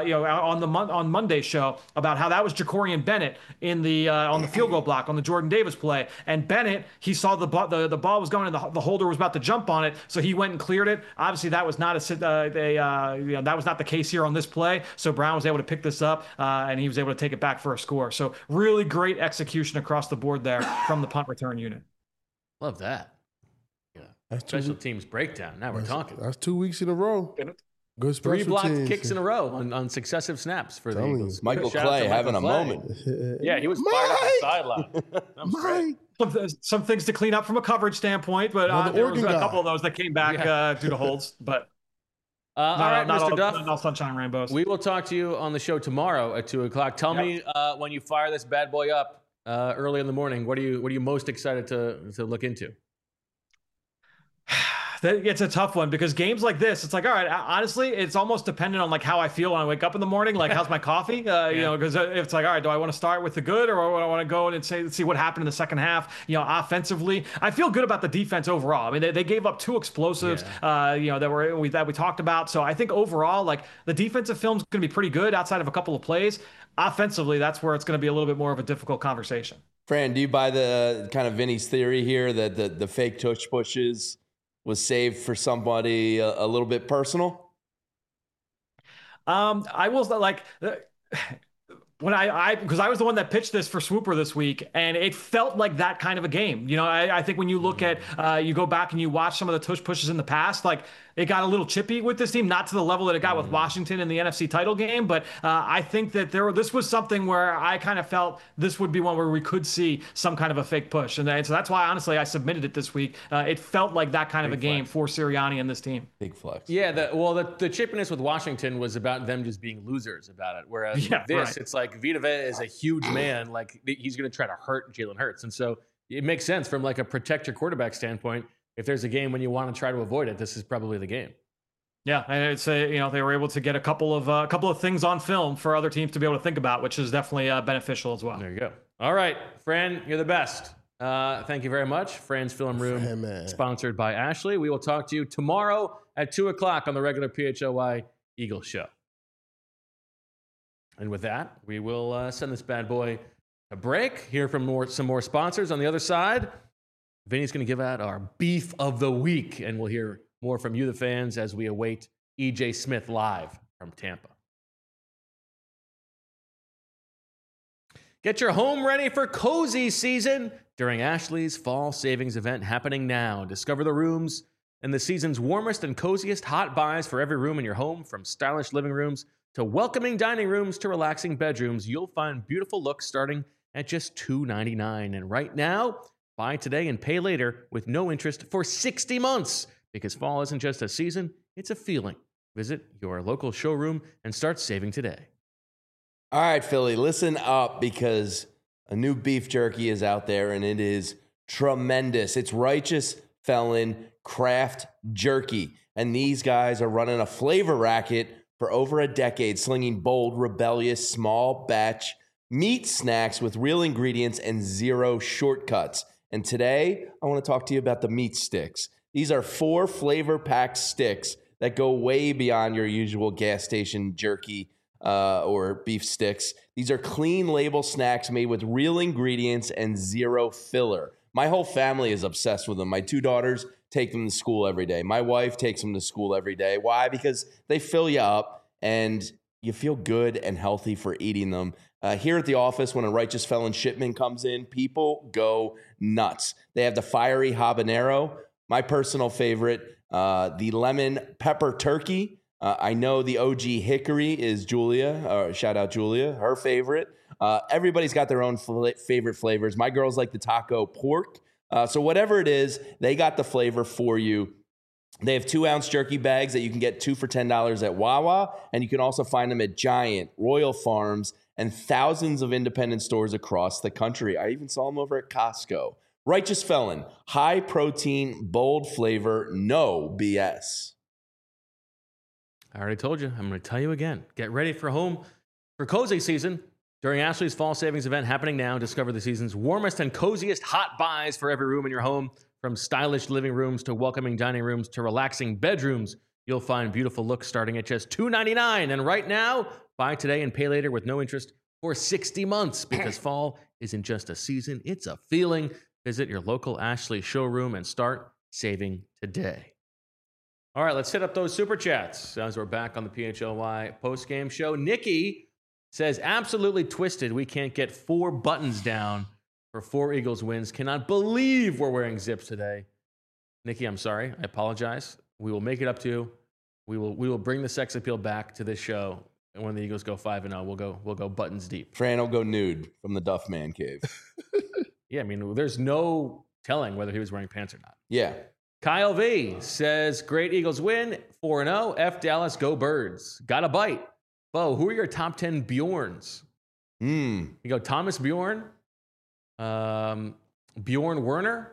On Monday's show about how that was Jacorian Bennett in the on the field goal block on the Jordan Davis play, and Bennett, he saw the ball was going and the holder was about to jump on it, so he went and cleared it. Obviously, that was not that was not the case here on this play. So Brown was able to pick this up and he was able to take it back for a score. So really great execution across the board there from the punt return unit. Love that. Yeah, special teams breakdown. Now we're talking. That's 2 weeks in a row. Good special 3 blocked teams. kicks in a row on successive snaps for the Eagles. Michael Clay having a moment. Yeah, he was fired up the sideline. Some things to clean up from a coverage standpoint, but there was a couple of those that came back due to holds. But all right, Mr. Duff. Not all sunshine and rainbows. We will talk to you on the show tomorrow at 2:00. Tell me when you fire this bad boy up early in the morning. What are you most excited to look into? It's a tough one because games like this, it's like, all right, honestly, it's almost dependent on like how I feel when I wake up in the morning. Like, how's my coffee? Because it's like, all right, do I want to start with the good or do I want to go and see what happened in the second half? Offensively, I feel good about the defense overall. I mean, they gave up 2 explosives, that we talked about. So I think overall, like the defensive film's going to be pretty good outside of a couple of plays. Offensively, that's where it's going to be a little bit more of a difficult conversation. Fran, do you buy the kind of Vinny's theory here that the fake tush pushes was saved for somebody a little bit personal? I will like when because I was the one that pitched this for Swooper this week, and it felt like that kind of a game. I think when you look at you go back and you watch some of the tush pushes in the past, like it got a little chippy with this team, not to the level that it got with Washington in the NFC title game. But I think that this was something where I kind of felt this would be one where we could see some kind of a fake push. And so that's why, honestly, I submitted it this week. It felt like that kind of a game for Sirianni and this team. Big flex. Yeah, the chippiness with Washington was about them just being losers about it. Whereas with this, it's like Vita Vea is a huge man. Like he's going to try to hurt Jalen Hurts. And so it makes sense from like a protect your quarterback standpoint. If there's a game when you want to try to avoid it, this is probably the game. Yeah, and it's they were able to get a couple of things on film for other teams to be able to think about, which is definitely beneficial as well. There you go. All right, Fran, you're the best. Thank you very much. Fran's Film Room, sponsored by Ashley. We will talk to you tomorrow at 2:00 on the regular PHLY Eagles show. And with that, we will send this bad boy a break. Hear from some more sponsors on the other side. Vinny's going to give out our beef of the week, and we'll hear more from you, the fans, as we await E.J. Smith live from Tampa. Get your home ready for cozy season during Ashley's fall savings event happening now. Discover the rooms and the season's warmest and coziest hot buys for every room in your home, from stylish living rooms to welcoming dining rooms to relaxing bedrooms. You'll find beautiful looks starting at just $299. And right now, buy today and pay later with no interest for 60 months. Because fall isn't just a season, it's a feeling. Visit your local showroom and start saving today. All right, Philly, listen up, because a new beef jerky is out there and it is tremendous. It's Righteous Felon Craft Jerky. And these guys are running a flavor racket for over a decade, slinging bold, rebellious, small batch meat snacks with real ingredients and zero shortcuts. And today, I want to talk to you about the meat sticks. These are 4 flavor-packed sticks that go way beyond your usual gas station jerky or beef sticks. These are clean label snacks made with real ingredients and 0 filler. My whole family is obsessed with them. My 2 daughters take them to school every day. My wife takes them to school every day. Why? Because they fill you up and you feel good and healthy for eating them. Here at the office, when a Righteous Felon shipment comes in, people go nuts. They have the fiery habanero, my personal favorite, the lemon pepper turkey. I know the OG hickory is Julia. Shout out Julia, her favorite. Everybody's got their own favorite flavors. My girls like the taco pork. So whatever it is, they got the flavor for you. They have 2-ounce jerky bags that you can get 2 for $10 at Wawa, and you can also find them at Giant, Royal Farms, and thousands of independent stores across the country. I even saw them over at Costco. Righteous Felon, high protein, bold flavor, no BS. I already told you. I'm going to tell you again. Get ready for cozy season. During Ashley's fall savings event happening now, discover the season's warmest and coziest hot buys for every room in your home. From stylish living rooms to welcoming dining rooms to relaxing bedrooms, you'll find beautiful looks starting at just $2.99. And right now, buy today and pay later with no interest for 60 months because fall isn't just a season, it's a feeling. Visit your local Ashley showroom and start saving today. All right, let's hit up those super chats as we're back on the PHLY postgame show. Nikki says, absolutely twisted. We can't get 4 buttons down for 4 Eagles wins. Cannot believe we're wearing zips today. Nikki, I'm sorry. I apologize. We will make it up to you. We will bring the sex appeal back to this show. And when the Eagles go 5-0, we'll go buttons deep. Fran will go nude from the Duff Man cave. Yeah, I mean, there's no telling whether he was wearing pants or not. Yeah. Kyle V says, great Eagles win, 4-0. F Dallas, go Birds. Got a bite. Bo, who are your top 10 Bjorns? You go Thomas Bjorn, Bjorn Werner,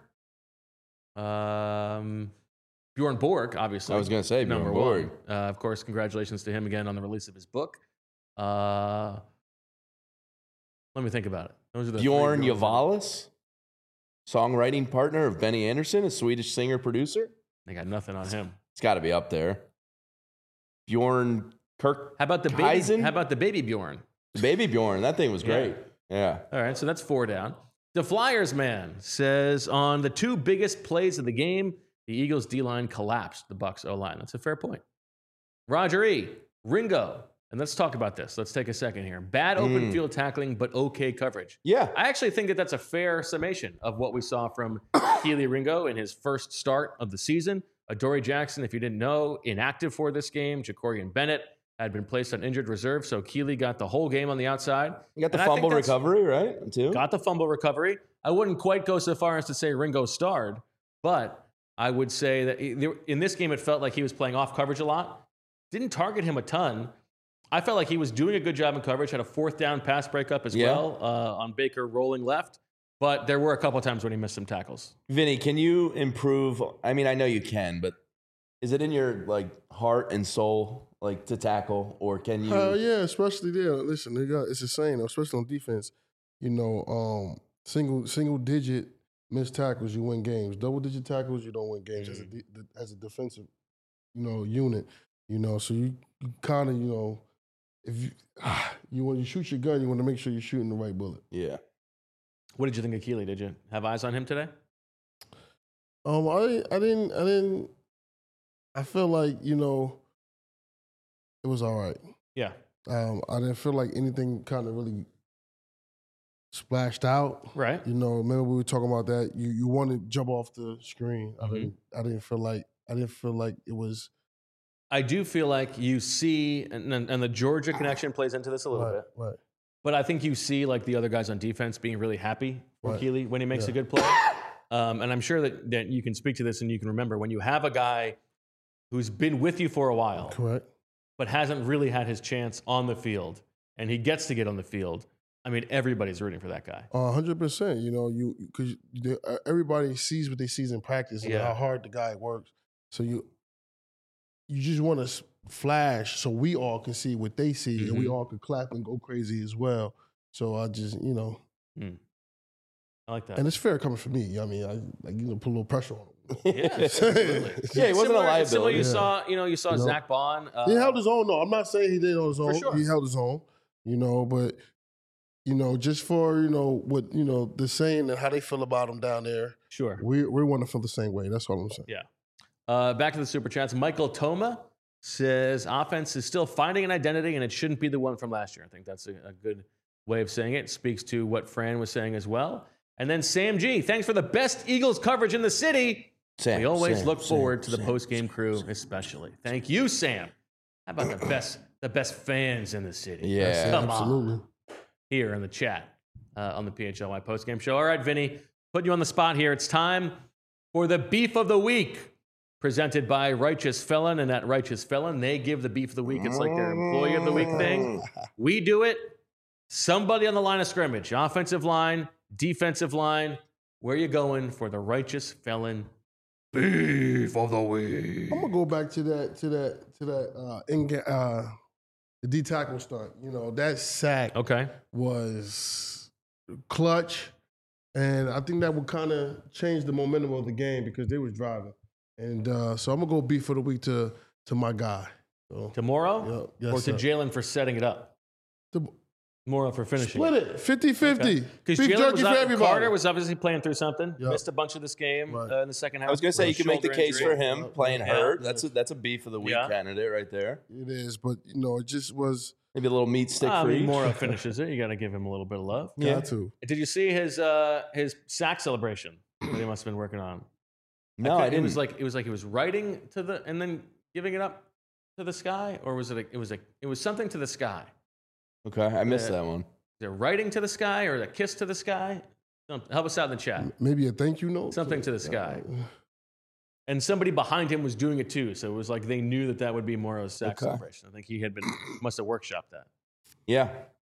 Bjorn Borg, obviously. I was going to say number Bjorn Borg. One. Of course, congratulations to him again on the release of his book. Let me think about it. Those are the Bjorn Yavalis, songwriting partner of Benny Anderson, a Swedish singer-producer. I got nothing on him. It's got to be up there. Bjorn Kirk. How about the baby? How about the baby Bjorn? The baby Bjorn. That thing was great. Yeah. All right, so that's 4 down. The Flyers man says on the 2 biggest plays of the game, the Eagles D-line collapsed the Bucs O-line. That's a fair point. Roger E. Ringo. And let's talk about this. Let's take a second here. Bad open field tackling, but okay coverage. Yeah. I actually think that that's a fair summation of what we saw from Keely Ringo in his first start of the season. Adoree Jackson, if you didn't know, inactive for this game. Jacorian Bennett had been placed on injured reserve, so Keely got the whole game on the outside. You got the fumble recovery, right? Too. Got the fumble recovery. I wouldn't quite go so far as to say Ringo starred, but I would say that in this game it felt like he was playing off coverage a lot. Didn't target him a ton. I felt like he was doing a good job in coverage, had a 4th down pass breakup as well on Baker rolling left. But there were a couple of times when he missed some tackles. Vinny, can you improve? I mean, I know you can, but is it in your heart and soul to tackle, or can you? Yeah, especially there. Listen, it's the same, especially on defense. Single digit missed tackles, you win games. Double digit tackles, you don't win games as a defensive, unit. So you kind of, if when you shoot your gun, you want to make sure you're shooting the right bullet. Yeah. What did you think of Keely? Did you have eyes on him today? I didn't. I feel like it was all right. Yeah. I didn't feel like anything kind of really splashed out. Right. Remember we were talking about that. You want to jump off the screen. Mm-hmm. I didn't feel like it was. I do feel like you see, and the Georgia connection plays into this a little bit. Right. But I think you see the other guys on defense being really happy for Keely when he makes a good play. And I'm sure that you can speak to this and you can remember when you have a guy who's been with you for a while, correct, but hasn't really had his chance on the field, and he gets to get on the field. I mean, everybody's rooting for that guy. 100%. Because everybody sees what they see in practice and how hard the guy works. So you just want to flash so we all can see what they see and we all can clap and go crazy as well. So I just, I like that. And it's fair coming from me. I mean, put a little pressure on him. Yeah, absolutely. Yeah, he wasn't a liability. Similar, you saw Zach Bond. He held his own. No, I'm not saying he did on his own. Sure. He held his own. But just for what the saying and how they feel about him down there. Sure, we want to feel the same way. That's all I'm saying. Yeah. Back to the super chats. Michael Toma says offense is still finding an identity, and it shouldn't be the one from last year. I think that's a good way of saying it. Speaks to what Fran was saying as well. And then Sam G, thanks for the best Eagles coverage in the city. We always look forward to the post-game crew, especially. Thank you, Sam. How about the best fans in the city? Yeah, Come absolutely. on. Here in the chat on the PHLY post-game show. All right, Vinny, put you on the spot here. It's time for the Beef of the Week, presented by Righteous Felon. And at Righteous Felon, they give the Beef of the Week. It's like their Employee of the Week thing. We do it. Somebody on the line of scrimmage, offensive line, defensive line. Where are you going for the Righteous Felon Beef of the Week? I'm gonna go back to that the D tackle stunt. That sack was clutch, and I think that would kind of change the momentum of the game because they was driving. And so I'm gonna go Beef of the Week to my guy. So, to Morrow? Yes, or to Jalen for setting it up? Morrow for finishing. Split it 50-50. Because Beef jerky for everybody. Carter was obviously playing through something. Missed a bunch of this game in the second half. I was going to say, you can make the case for him playing hurt. Yeah. That's a Beef of the Week candidate right there. It is, but it just was maybe a little meat stick for each. Morrow finishes it. You got to give him a little bit of love. Got to. Did you see his sack celebration that he must have been working on? No, I didn't. It was like he was writing to the and then giving it up to the sky, or was it? It was something to the sky. Okay, I missed that one. Is it writing to the sky or a kiss to the sky? Help us out in the chat. Maybe a thank you note. Something to the sky. And somebody behind him was doing it too, so it was like they knew that would be Morrow's sack celebration. I think he must have workshopped that. Yeah.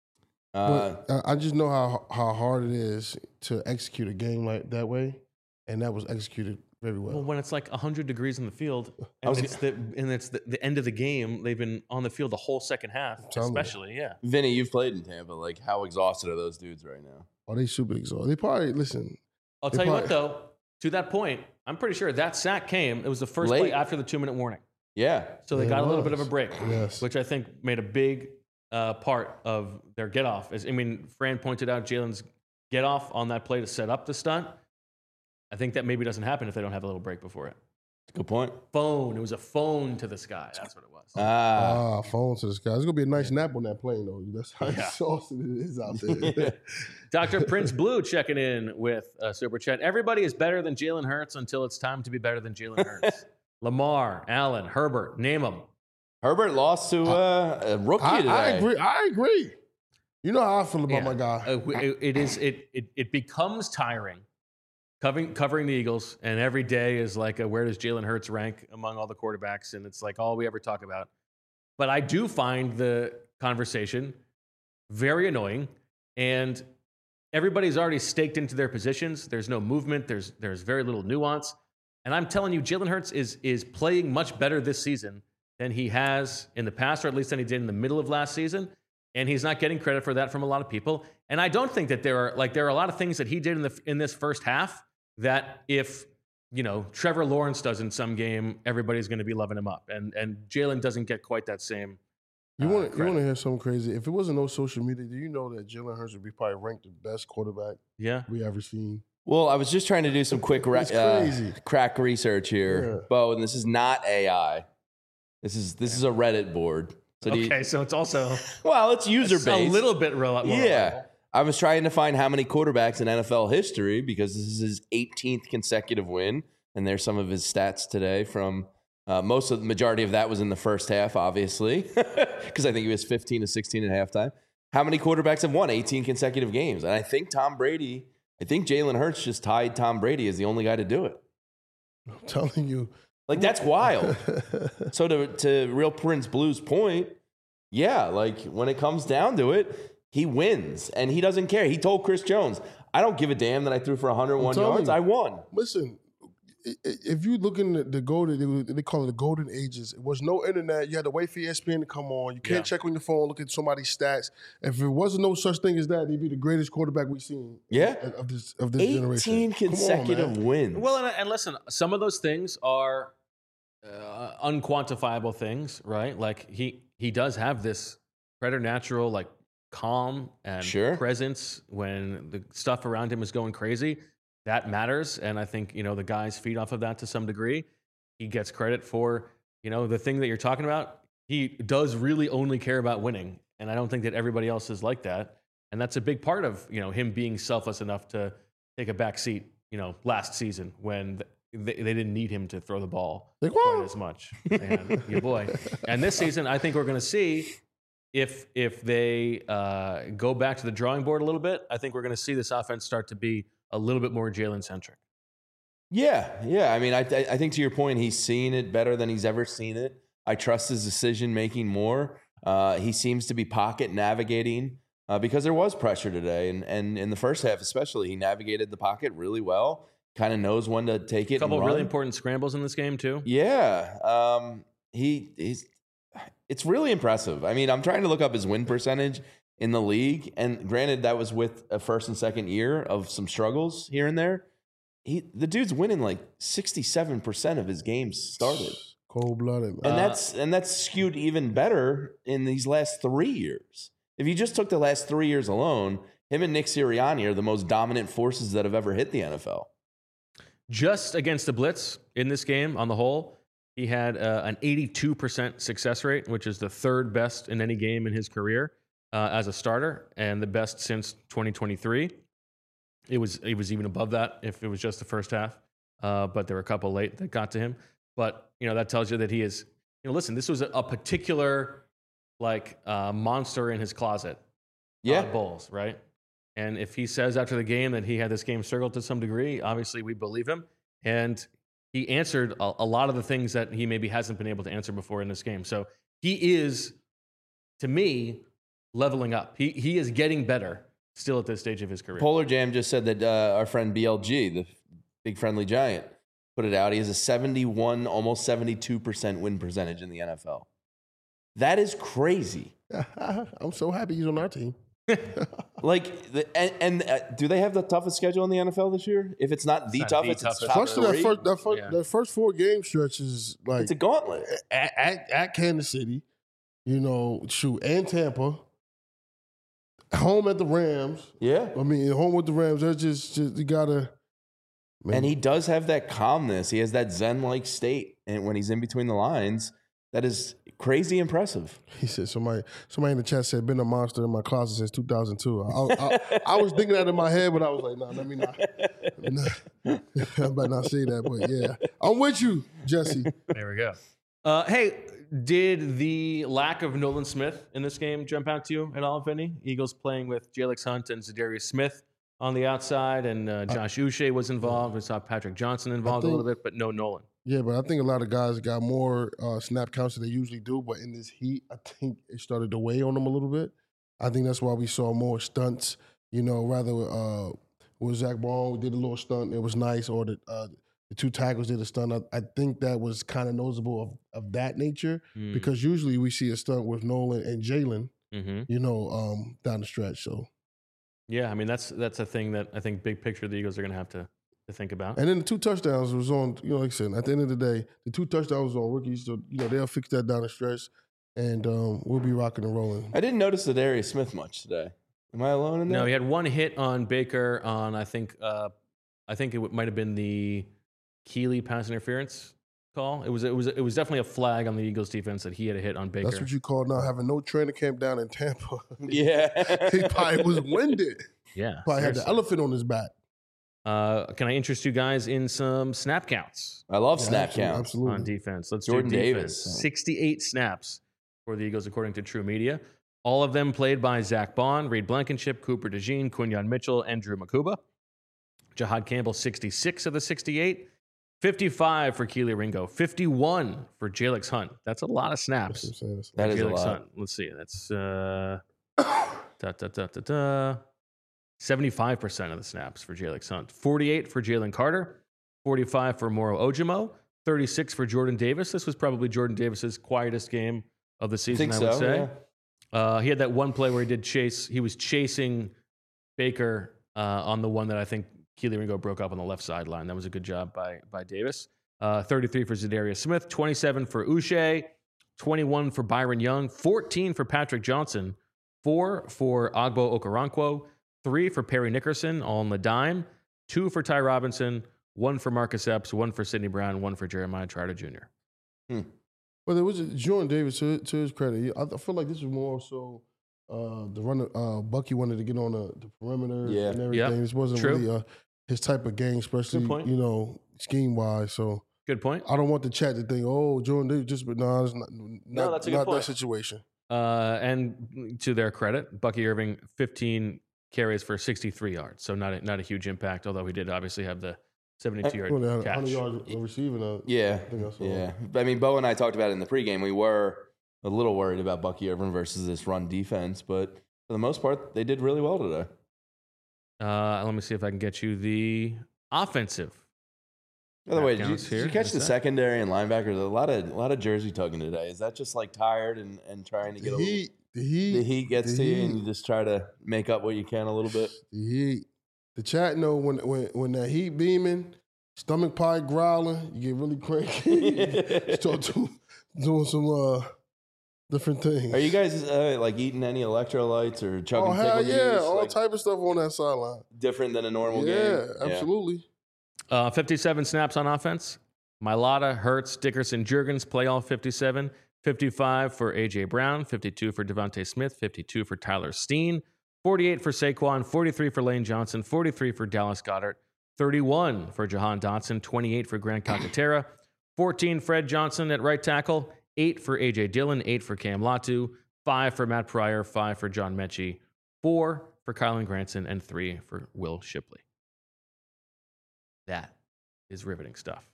But I just know how hard it is to execute a game like that way, and that was executed very well. Well, when it's like 100 degrees in the field, and it's the end of the game, they've been on the field the whole second half, especially, Vinny, you've played in Tampa. Like, how exhausted are those dudes right now? Oh, they super exhausted. They probably, listen. I'll tell you what, though, to that point, I'm pretty sure that sack came, it was the first play after the 2-minute warning. Yeah. So they got a little bit of a break, yes, which I think made a big part of their get-off. Fran pointed out Jalen's get-off on that play to set up the stunt. I think that maybe doesn't happen if they don't have a little break before it. Good point. Phone. It was a phone to the sky. That's what it was. Phone to the sky. It's going to be a nice nap on that plane, though. That's how exhausted it is out there. Dr. Prince Blue checking in with Super Chat. Everybody is better than Jalen Hurts until it's time to be better than Jalen Hurts. Lamar, Allen, Herbert, name them. Herbert lost to a rookie today. I agree. You know how I feel about my guy. It becomes tiring covering the Eagles, and every day is like, where does Jalen Hurts rank among all the quarterbacks? And it's like all we ever talk about. But I do find the conversation very annoying, and everybody's already staked into their positions. There's no movement. There's very little nuance. And I'm telling you, Jalen Hurts is playing much better this season than he has in the past, or at least than he did in the middle of last season. And he's not getting credit for that from a lot of people. And I don't think that there are a lot of things that he did in this first half that if Trevor Lawrence does in some game, everybody's going to be loving him up. And Jalen doesn't get quite that same. You want to hear something crazy? If it wasn't no social media, do you know that Jalen Hurts would be probably ranked the best quarterback we ever seen? Well, I was just trying to do some quick crack research here, Bo, and this is not AI. This is a Reddit board. So so it's also it's user based. A little bit more. Yeah. I was trying to find how many quarterbacks in NFL history because this is his 18th consecutive win, and there's some of his stats today from the majority of that was in the first half, obviously, because I think he was 15 to 16 at halftime. How many quarterbacks have won 18 consecutive games? And I think Jalen Hurts just tied Tom Brady as the only guy to do it. I'm telling you. Like, that's wild. So to Real Prince Blue's point, when it comes down to it, he wins, and he doesn't care. He told Chris Jones, I don't give a damn that I threw for 101 yards. I won. Listen, if you look in the golden, they call it the golden ages. It was no internet. You had to wait for ESPN to come on. You can't check on your phone, look at somebody's stats. If there wasn't no such thing as that, he'd be the greatest quarterback we've seen. Of this 18 generation. 18 consecutive wins. Well, and listen, some of those things are unquantifiable things, right? Like he does have this preternatural, like, calm and presence when the stuff around him is going crazy. That matters, and I think the guys feed off of that to some degree. He gets credit for the thing that you're talking about. He does really only care about winning, and I don't think that everybody else is like that. And that's a big part of him being selfless enough to take a back seat. Last season when they didn't need him to throw the ball quite as much. And your boy. And this season, I think we're going to see if they go back to the drawing board a little bit. I think we're going to see this offense start to be a little bit more Jalen centric. Yeah. I mean, I think to your point, he's seeing it better than he's ever seen it. I trust his decision making more. He seems to be pocket navigating because there was pressure today, and in the first half especially, he navigated the pocket really well. Kind of knows when to take it. A couple of really important scrambles in this game too. Yeah, it's really impressive. I mean, I'm trying to look up his win percentage in the league, and granted, that was with a first and second year of some struggles here and there. The dude's winning like 67% of his games started. Cold-blooded, and that's skewed even better in these last 3 years. If you just took the last 3 years alone, him and Nick Sirianni are the most dominant forces that have ever hit the NFL. Just against the blitz in this game on the whole, he had an 82% success rate, which is the third best in any game in his career as a starter, and the best since 2023. It was even above that if it was just the first half, but there were a couple late that got to him. But that tells you that he is. Listen, this was a particular monster in his closet. Bulls, right? And if he says after the game that he had this game circled to some degree, obviously we believe him. And he answered a lot of the things that he maybe hasn't been able to answer before in this game. So he is, to me, leveling up. He is getting better still at this stage of his career. Polar Jam just said that our friend BLG, the big friendly giant, put it out. He has a 71, almost 72% win percentage in the NFL. That is crazy. I'm so happy he's on our team. Do they have the toughest schedule in the NFL this year? If it's not the toughest, it's top three. That first 4 game stretch is like it's a gauntlet at Kansas City, and Tampa, home at the Rams. Yeah, I mean, home with the Rams. That's just you gotta. Man. And he does have that calmness. He has that Zen-like state, and when he's in between the lines. That is crazy impressive. He said, somebody in the chat said, been a monster in my closet since 2002. I was thinking that in my head, but I was like, no, let me not. I better not say that, but yeah. I'm with you, Jesse. There we go. Hey, did the lack of Nolan Smith in this game jump out to you at all, Vinny? Eagles playing with Jalix Hunt and Zadarius Smith on the outside, and Josh Uche was involved. We saw Patrick Johnson involved a little bit, but no Nolan. Yeah, but I think a lot of guys got more snap counts than they usually do. But in this heat, I think it started to weigh on them a little bit. I think that's why we saw more stunts. Rather with Zach Ball did a little stunt, it was nice, or the 2 tackles did a stunt. I think that was kind of noticeable of that nature because usually we see a stunt with Nolan and Jalen, down the stretch. So, yeah, I mean that's a thing that I think big picture the Eagles are going to have to think about. And then the 2 touchdowns was on, like I said, at the end of the day, the 2 touchdowns was on rookies. So, they'll fix that down the stretch, and we'll be rocking and rolling. I didn't notice Zadarius Smith much today. Am I alone in that? No, he had 1 hit on Baker on, I think it might have been the Keeley pass interference call. It was definitely a flag on the Eagles defense that he had a hit on Baker. That's what you call now having no training camp down in Tampa. Yeah. He probably was winded. Yeah. Probably had the elephant on his back. Can I interest you guys in some snap counts? I love snap counts. Absolutely. On defense. Let's Jordan do defense. Davis. 68 snaps for the Eagles, according to True Media. All of them played by Zach Bond, Reed Blankenship, Cooper DeJean, Quinyon Mitchell, and Drew Makuba. Jahad Campbell, 66 of the 68. 55 for Keely Ringo. 51 for Jalix Hunt. That's a lot of snaps. That is a lot. Hunt. Let's see. That's 75% of the snaps for Jalix Hunt. 48 for Jalen Carter. 45 for Moro Ojimo, 36 for Jordan Davis. This was probably Jordan Davis's quietest game of the season, I would say. Yeah. He had that one play where he was chasing Baker on the one that I think Keely Ringo broke up on the left sideline. That was a good job by Davis. 33 for Zadarius Smith, 27 for Uche, 21 for Byron Young, 14 for Patrick Johnson, 4 for Agbo Okoronkwo, 3 for Perry Nickerson, all on the dime, 2 for Ty Robinson, 1 for Marcus Epps, 1 for Sidney Brown, 1 for Jeremiah Trotter Jr. Well, it was Jordan Davis, to his credit. I feel like this was more so the runner. Bucky wanted to get on the perimeter and everything. Yep. This wasn't really his type of game, especially, scheme-wise. So good point. I don't want the chat to think, Jordan Davis just, but no, it's not that situation. And to their credit, Bucky Irving, 15 carries for 63 yards. So not a huge impact, although he did obviously have the 72-yard catch. 100 yards receiving. Yeah. I mean, Bo and I talked about it in the pregame. We were a little worried about Bucky Irving versus this run defense, but for the most part, they did really well today. Let me see if I can get you the offensive. By the way, did you catch the secondary and linebackers? A lot of jersey tugging today. Is that just like tired and trying to get the heat gets to you and you just try to make up what you can a little bit? The chat know when that heat beaming, stomach pie growling, you get really cranky. Start doing some different things. Are you guys like eating any electrolytes or chugging? Oh hell yeah, all type of stuff on that sideline. Different than a normal game. Yeah, absolutely. 57 snaps on offense. Mailata, Hurts, Dickerson, Jurgens play all 57. 55 for A.J. Brown, 52 for Devontae Smith, 52 for Tyler Steen, 48 for Saquon, 43 for Lane Johnson, 43 for Dallas Goedert, 31 for Jahan Dotson, 28 for Grant Calcaterra, 14 Fred Johnson at right tackle, 8 for A.J. Dillon, 8 for Cam Latu, 5 for Matt Pryor, 5 for John Mechie, 4 for Kylan Granson, and 3 for Will Shipley. That is riveting stuff.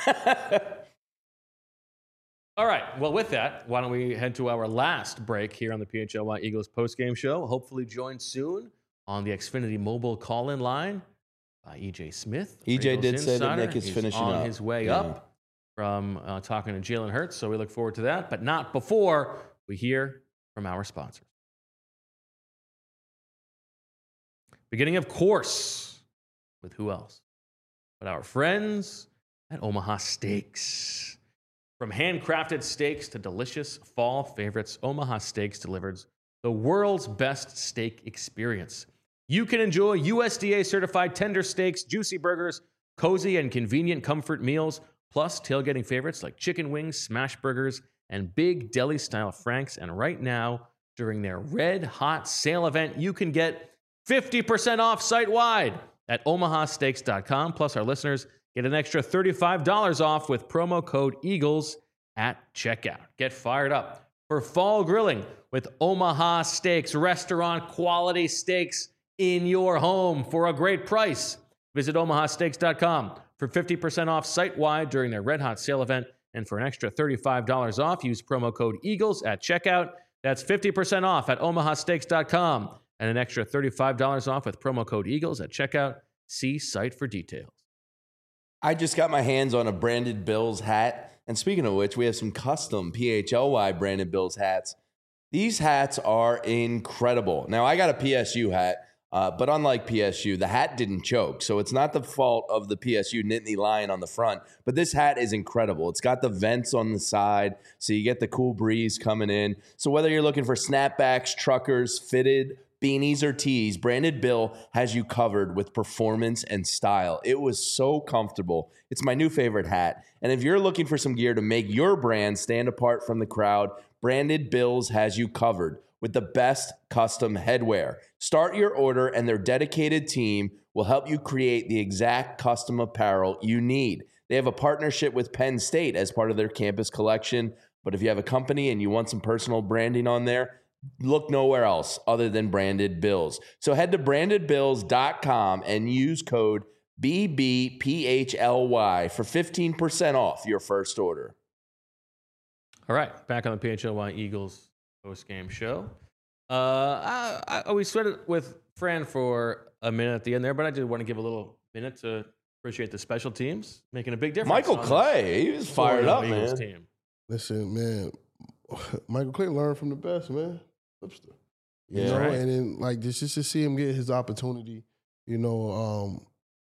All right. Well, with that, why don't we head to our last break here on the PHLY Eagles postgame show. Hopefully joined soon on the Xfinity mobile call-in line by EJ Smith. EJ did say that Nick is finishing up. On his way up from talking to Jalen Hurts, so we look forward to that, but not before we hear from our sponsors. Beginning, of course, with who else but our friends at Omaha Steaks. From handcrafted steaks to delicious fall favorites, Omaha Steaks delivers the world's best steak experience. You can enjoy USDA-certified tender steaks, juicy burgers, cozy and convenient comfort meals, plus tailgating favorites like chicken wings, smash burgers, and big deli-style franks. And right now, during their Red Hot Sale event, you can get 50% off site-wide at omahasteaks.com. Plus, our listeners get an extra $35 off with promo code EAGLES at checkout. Get fired up for fall grilling with Omaha Steaks, restaurant quality steaks in your home for a great price. Visit omahasteaks.com for 50% off site-wide during their Red Hot Sale event, and for an extra $35 off, use promo code EAGLES at checkout. That's 50% off at omahasteaks.com and an extra $35 off with promo code EAGLES at checkout. See site for details. I just got my hands on a branded Bills hat. And speaking of which, we have some custom PHLY branded Bills hats. These hats are incredible. Now, I got a PSU hat, but unlike PSU, the hat didn't choke. So it's not the fault of the PSU Nittany Lion on the front. But this hat is incredible. It's got the vents on the side, so you get the cool breeze coming in. So whether you're looking for snapbacks, truckers, fitted, beanies or tees, Branded Bill has you covered with performance and style. It was so comfortable. It's my new favorite hat. And if you're looking for some gear to make your brand stand apart from the crowd, Branded Bills has you covered with the best custom headwear. Start your order and their dedicated team will help you create the exact custom apparel you need. They have a partnership with Penn State as part of their campus collection. But if you have a company and you want some personal branding on there, look nowhere else other than Branded Bills. So head to brandedbills.com and use code BBPHLY for 15% off your first order. All right, back on the PHLY Eagles post-game show. We sweated with Fran for a minute at the end there, but I did want to give a little minute to Appreciate the special teams making a big difference. Michael Clay, he was fired up, man. Team. Listen, man, Michael Clay learned from the best, man. Lipster. You know, right. and then like just to see him get his opportunity, you know,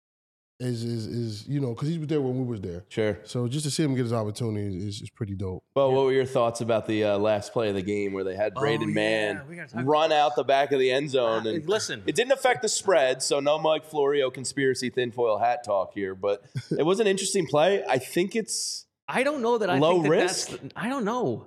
is you know, because he was there when we was there. Sure. So just to see him get his opportunity is pretty dope. Well, what were your thoughts about the last play of the game where they had Braden Mann run out the back of the end zone? And listen, it didn't affect the spread, so no Mike Florio conspiracy tinfoil hat talk here, but it was an interesting play. I think it's I don't know that I low think risk. I don't know.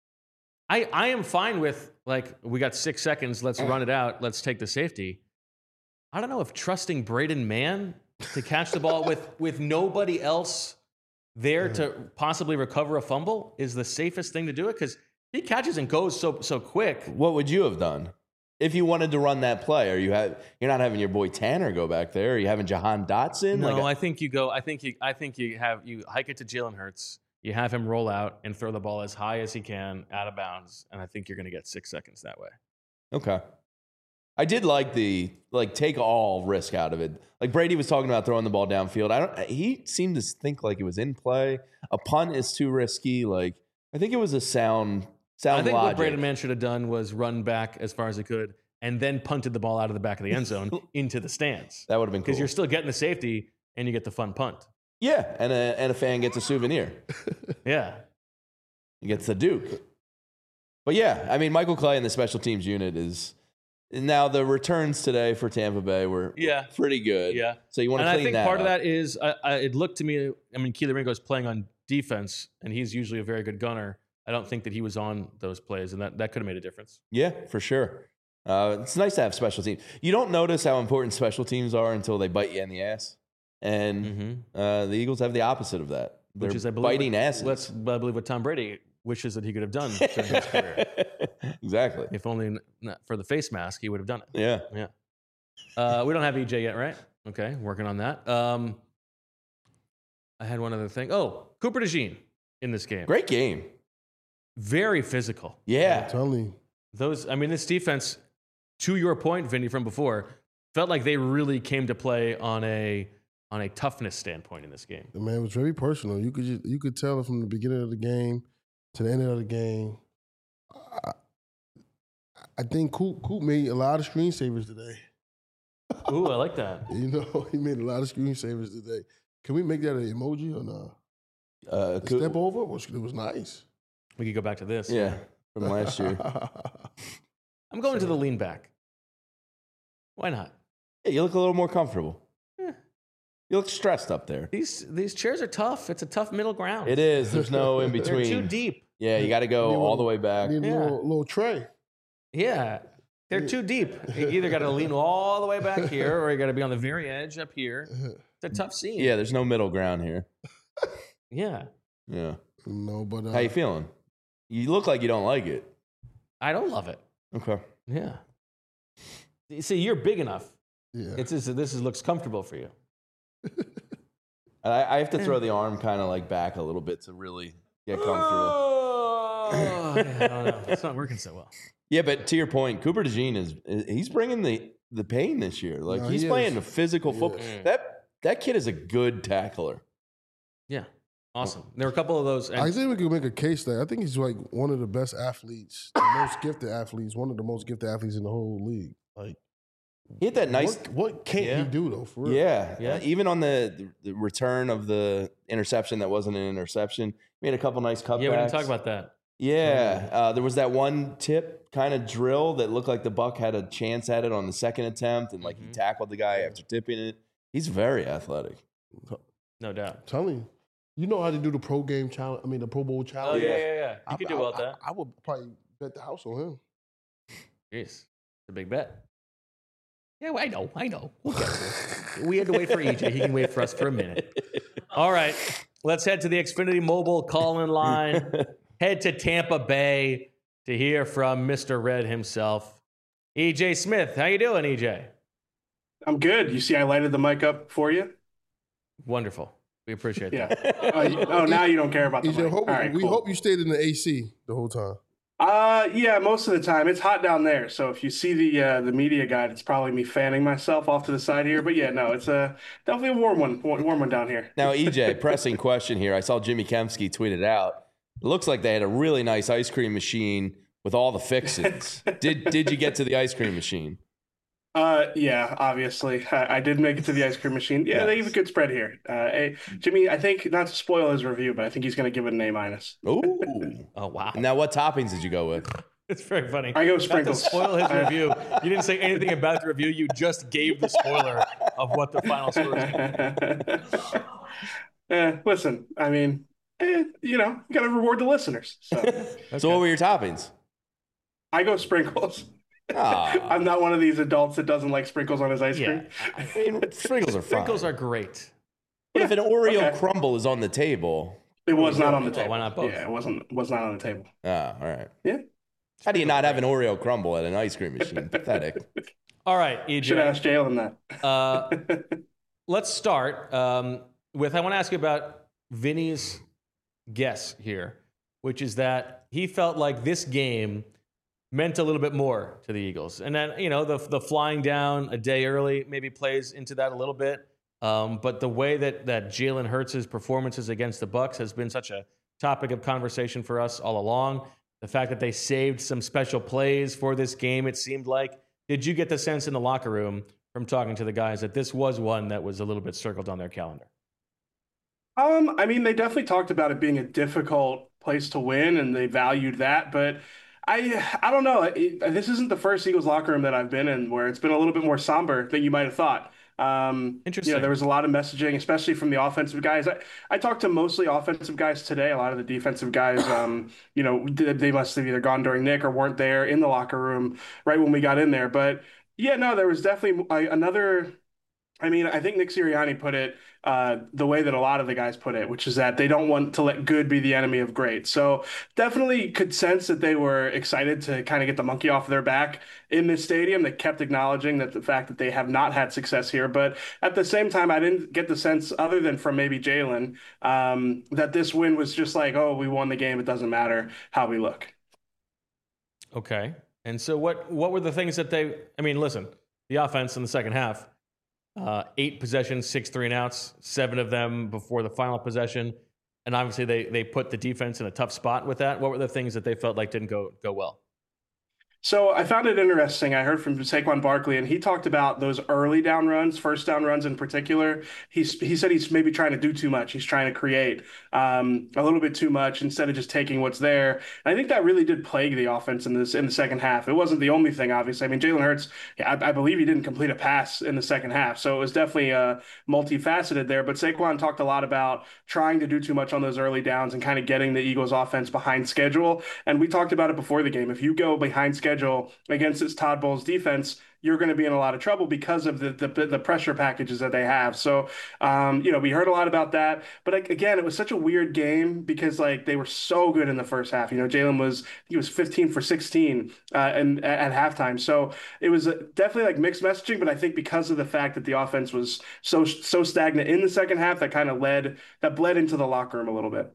I am fine with, like, we got 6 seconds. Let's run it out. Let's take the safety. I don't know if trusting Braden Mann to catch the ball with nobody else there to possibly recover a fumble is the safest thing to do it, because he catches and goes so quick. What would you have done if you wanted to run that play? You're not having your boy Tanner go back there. Are you having Jahan Dotson? No, I think you go. I think you hike it to Jalen Hurts. You have him roll out and throw the ball as high as he can out of bounds, and I think you're going to get 6 seconds that way. Okay. I did like take all risk out of it. Like Brady was talking about throwing the ball downfield. He seemed to think like it was in play. A punt is too risky. Like I think it was a sound I think logic. what Braden Mann should have done was run back as far as he could and then punted the ball out of the back of the end zone into the stands. That would have been cool. Because you're still getting the safety and you get the fun punt. Yeah, and a fan gets a souvenir. Yeah. He gets the Duke. But yeah, I mean, Michael Clay in the special teams unit is now the returns today for Tampa Bay were pretty good. Yeah. So you want to clean that up. And I think part of that is it looked to me, I mean, Keely Ringo's playing on defense, and he's usually a very good gunner. I don't think that he was on those plays, and that could have made a difference. Yeah, for sure. It's nice to have special teams. You don't notice how important special teams are until they bite you in the ass. And the Eagles have the opposite of that. They're Which is, I believe, biting asses. I believe what Tom Brady wishes that he could have done during his career. Exactly. If only not for the face mask, he would have done it. Yeah. Yeah. We don't have EJ yet, right? Okay, working on that. I had one other thing. Oh, Cooper DeJean in this game. Great game. Very physical. Yeah. I'm telling you. This defense, to your point, Vinny, from before, felt like they really came to play on a toughness standpoint in this game. Man, it was very personal. You could tell it from the beginning of the game to the end of the game. I think Coop made a lot of screensavers today. Ooh, I like that. You know, he made a lot of screensavers today. Can we make that an emoji or not? Step over? It was nice. We could go back to this. Yeah, from last year. I'm going to the lean back. Why not? Yeah, you look a little more comfortable. You look stressed up there. These chairs are tough. It's a tough middle ground. It is. There's no in between. They're too deep. Yeah, you got to go all the way back. Need a little tray. Yeah, they're too deep. You either got to lean all the way back here, or you got to be on the very edge up here. It's a tough scene. Yeah, there's no middle ground here. Yeah. Yeah. No, but how you feeling? You look like you don't like it. I don't love it. Okay. Yeah. See, you're big enough. Yeah. This looks comfortable for you. I have to throw the arm kind of like back a little bit to really get comfortable. Oh, yeah, I don't know. It's not working so well. Yeah, but to your point, Cooper DeJean he's bringing the pain this year. Like he's playing a physical football. That kid is a good tackler. Yeah. Awesome. There were a couple of those. I think we could make a case that I think he's like one of the best athletes, the most gifted athletes, one of the most gifted athletes in the whole league. Like he had that nice. What can't he do though? For real? Yeah. Even on the return of the interception that wasn't an interception, he made a couple nice cutbacks. Yeah, we didn't talk about that. Yeah, there was that one tip kind of drill that looked like the Buck had a chance at it on the second attempt, and like he tackled the guy after tipping it. He's very athletic. No doubt. I'm telling you. You know how to do the pro game challenge? I mean, the Pro Bowl challenge? Oh, yeah. You could do well at that. I would probably bet the house on him. Jeez. It's a big bet. Yeah, I know. We'll get to it. We had to wait for EJ. He can wait for us for a minute. All right. Let's head to the Xfinity Mobile call-in line. Head to Tampa Bay to hear from Mr. Red himself. EJ Smith. How you doing, EJ? I'm good. You see I lighted the mic up for you? Wonderful. We appreciate that. Yeah. Now you don't care about the mic. We hope you stayed in the AC the whole time. Yeah, most of the time. It's hot down there. So if you see the media guide, it's probably me fanning myself off to the side here. But yeah, no, it's definitely a warm one down here. Now, EJ, pressing question here. I saw Jimmy Kempski tweet it out. It looks like they had a really nice ice cream machine with all the fixins. Did you get to the ice cream machine? Yeah, obviously. I did make it to the ice cream machine. Yeah, nice. They have a good spread here. Hey, Jimmy, I think, not to spoil his review, but I think he's going to give it an A-. Ooh. Oh, wow. Now, what toppings did you go with? It's very funny. I go sprinkles. Not to spoil his review. You didn't say anything about the review. You just gave the spoiler of what the final score is. Listen, I mean, you got to reward the listeners. So. Okay. So what were your toppings? I go sprinkles. I'm not one of these adults that doesn't like sprinkles on his ice cream. I mean, sprinkles are fine. Sprinkles are great. But if an Oreo crumble is on the table, it was not on the table. Why not both? Yeah, it was not on the table. All right. Yeah. How do you not have an Oreo crumble at an ice cream machine? Pathetic. All right, EJ. Should ask Jalen that. Let's start with, I want to ask you about Vinny's guess here, which is that he felt like this game meant a little bit more to the Eagles. And then, the flying down a day early maybe plays into that a little bit. But the way that Jalen Hurts' performances against the Bucs has been such a topic of conversation for us all along. The fact that they saved some special plays for this game, it seemed like. Did you get the sense in the locker room from talking to the guys that this was one that was a little bit circled on their calendar? I mean, they definitely talked about it being a difficult place to win, and they valued that. But I don't know. This isn't the first Eagles locker room that I've been in where it's been a little bit more somber than you might have thought. Interesting. There was a lot of messaging, especially from the offensive guys. I talked to mostly offensive guys today. A lot of the defensive guys, they must have either gone during Nick or weren't there in the locker room right when we got in there. But yeah, no, there was definitely another. I mean, I think Nick Sirianni put it the way that a lot of the guys put it, which is that they don't want to let good be the enemy of great. So definitely could sense that they were excited to kind of get the monkey off their back in this stadium. They kept acknowledging that the fact that they have not had success here. But at the same time, I didn't get the sense, other than from maybe Jalen, that this win was just like, oh, we won the game. It doesn't matter how we look. Okay. And so what were the things that listen, the offense in the second half, 8 possessions, 6 3-and-outs, 7 of them before the final possession. And obviously they put the defense in a tough spot with that. What were the things that they felt like didn't go well? So I found it interesting. I heard from Saquon Barkley, and he talked about those early down runs, first down runs in particular. He said he's maybe trying to do too much. He's trying to create a little bit too much instead of just taking what's there. And I think that really did plague the offense in the second half. It wasn't the only thing, obviously. I mean, Jalen Hurts, I believe he didn't complete a pass in the second half. So it was definitely multifaceted there. But Saquon talked a lot about trying to do too much on those early downs and kind of getting the Eagles offense behind schedule. And we talked about it before the game. If you go behind schedule against this Todd Bowles defense, you're going to be in a lot of trouble because of the pressure packages that they have. So, we heard a lot about that. But again, it was such a weird game because they were so good in the first half. Jalen was 15 for 16 and at halftime. So it was definitely mixed messaging. But I think because of the fact that the offense was so stagnant in the second half, that bled into the locker room a little bit.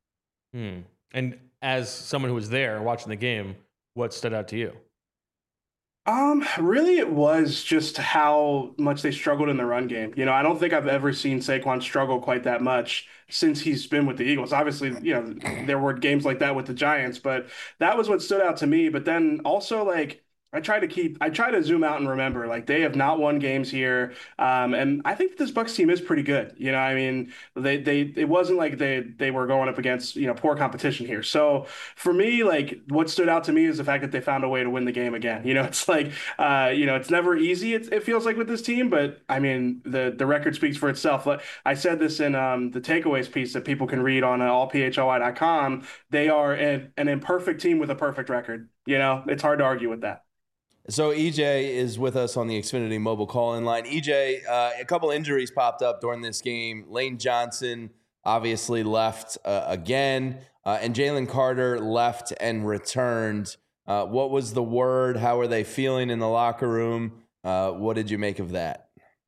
And as someone who was there watching the game, what stood out to you? Really, it was just how much they struggled in the run game. I don't think I've ever seen Saquon struggle quite that much since he's been with the Eagles. Obviously, there were games like that with the Giants, but that was what stood out to me. But then also, I try to zoom out and remember, they have not won games here. And I think this Bucs team is pretty good. I mean, it wasn't like they were going up against, poor competition here. So for me, what stood out to me is the fact that they found a way to win the game again. It's it's never easy. It feels like with this team, but I mean, the record speaks for itself. I said this in the takeaways piece that people can read on allphly.com. They are an imperfect team with a perfect record. It's hard to argue with that. So EJ is with us on the Xfinity mobile call-in line. EJ, a couple injuries popped up during this game. Lane Johnson obviously left again, and Jalen Carter left and returned. What was the word? How are they feeling in the locker room? What did you make of that?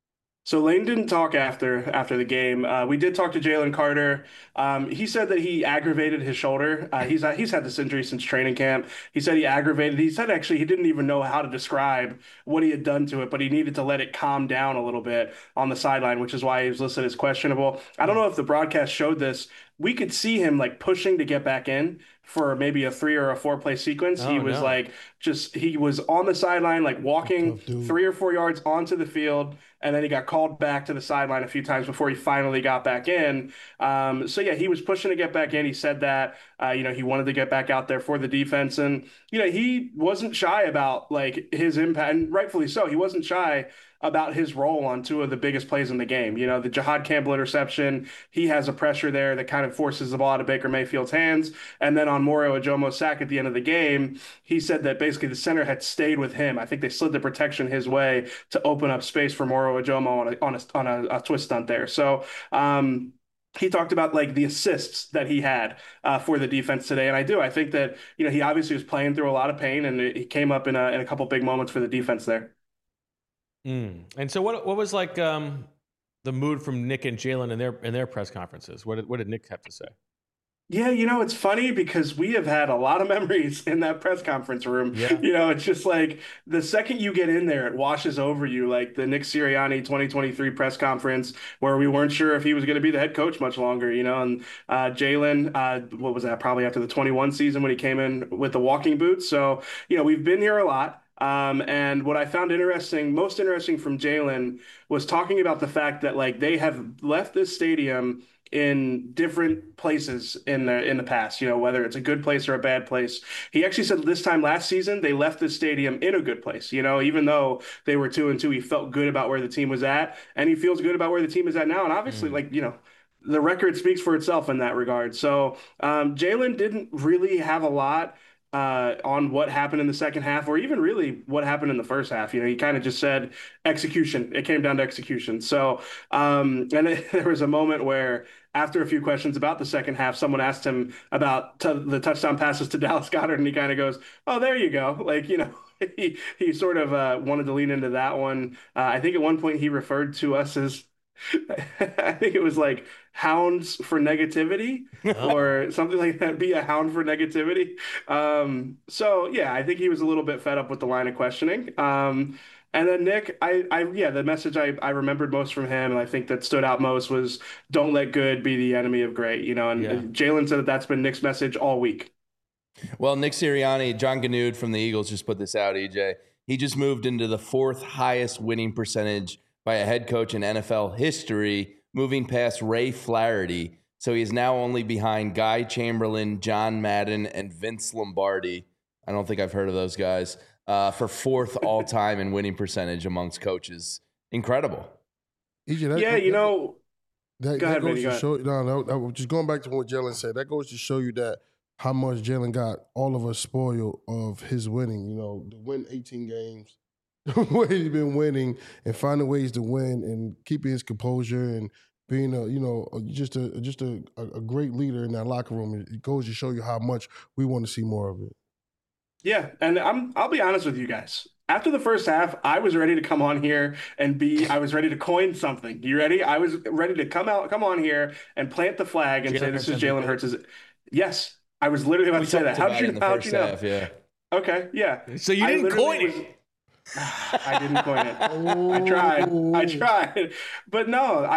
So Lane didn't talk after the game. We did talk to Jalen Carter. He said that he aggravated his shoulder. He's had this injury since training camp. He said he aggravated. He said actually he didn't even know how to describe what he had done to it, but he needed to let it calm down a little bit on the sideline, which is why he was listed as questionable. I don't know if the broadcast showed this. We could see him like pushing to get back in for maybe a 3 or a 4 play sequence. He was he was on the sideline, like walking 3 or 4 yards onto the field. And then he got called back to the sideline a few times before he finally got back in. So yeah, he was pushing to get back in. He said that, he wanted to get back out there for the defense. And, he wasn't shy about like his impact, and rightfully so. He wasn't shy about his role on 2 of the biggest plays in the game. The Jahad Campbell interception, he has a pressure there that kind of forces the ball out of Baker Mayfield's hands. And then on Moro Ajomo's sack at the end of the game, he said that basically the center had stayed with him. I think they slid the protection his way to open up space for Moro Ajomo on a twist stunt there. So, he talked about like the assists that he had for the defense today, and I think that he obviously was playing through a lot of pain, and he came up in a couple big moments for the defense there. And so, what was like the mood from Nick and Jalen in their press conferences? What did Nick have to say? Yeah, it's funny because we have had a lot of memories in that press conference room. Yeah. It's just like the second you get in there, it washes over you. Like the Nick Sirianni 2023 press conference where we weren't sure if he was going to be the head coach much longer, and Jalen, what was that? Probably after the 21 season when he came in with the walking boots. So, we've been here a lot. And what I found most interesting from Jalen was talking about the fact that like they have left this stadium in different places in the past, whether it's a good place or a bad place. He actually said this time last season, they left the stadium in a good place. Even though they were 2-2, he felt good about where the team was at, and he feels good about where the team is at now. And obviously, the record speaks for itself in that regard. So Jalen didn't really have a lot on what happened in the second half, or even really what happened in the first half. He kind of just said execution. It came down to execution. So, and there was a moment where after a few questions about the second half, someone asked him about the touchdown passes to Dallas Goedert, and he kind of goes, "Oh, there you go." Like, he sort of wanted to lean into that one. I think at one point he referred to us as, I think it was like hounds for negativity or something like that. Be a hound for negativity. So yeah, I think he was a little bit fed up with the line of questioning. And then Nick, the message I remembered most from him, and I think that stood out most was don't let good be the enemy of great, and Jalen said that's been Nick's message all week. Well, Nick Sirianni, John Ganud from the Eagles just put this out, EJ. He just moved into the 4th highest winning percentage by a head coach in NFL history, moving past Ray Flaherty. So he is now only behind Guy Chamberlain, John Madden, and Vince Lombardi. I don't think I've heard of those guys. For 4th all-time in winning percentage amongst coaches. Incredible. EJ, go ahead, just going back to what Jalen said, that goes to show you that how much Jalen got all of us spoiled of his winning. To win 18 games, the way he's been winning and finding ways to win and keeping his composure and being just a great leader in that locker room. It goes to show you how much we want to see more of it. Yeah, and I'll be honest with you guys. After the first half, I was ready to come on here and I was ready to coin something. You ready? I was ready to come on here and plant the flag and say this is Jalen Hurts. Yes, I was literally about to say that. How'd you know? Half, yeah. Okay, yeah. So you didn't coin it. I didn't coin it. I tried. But no,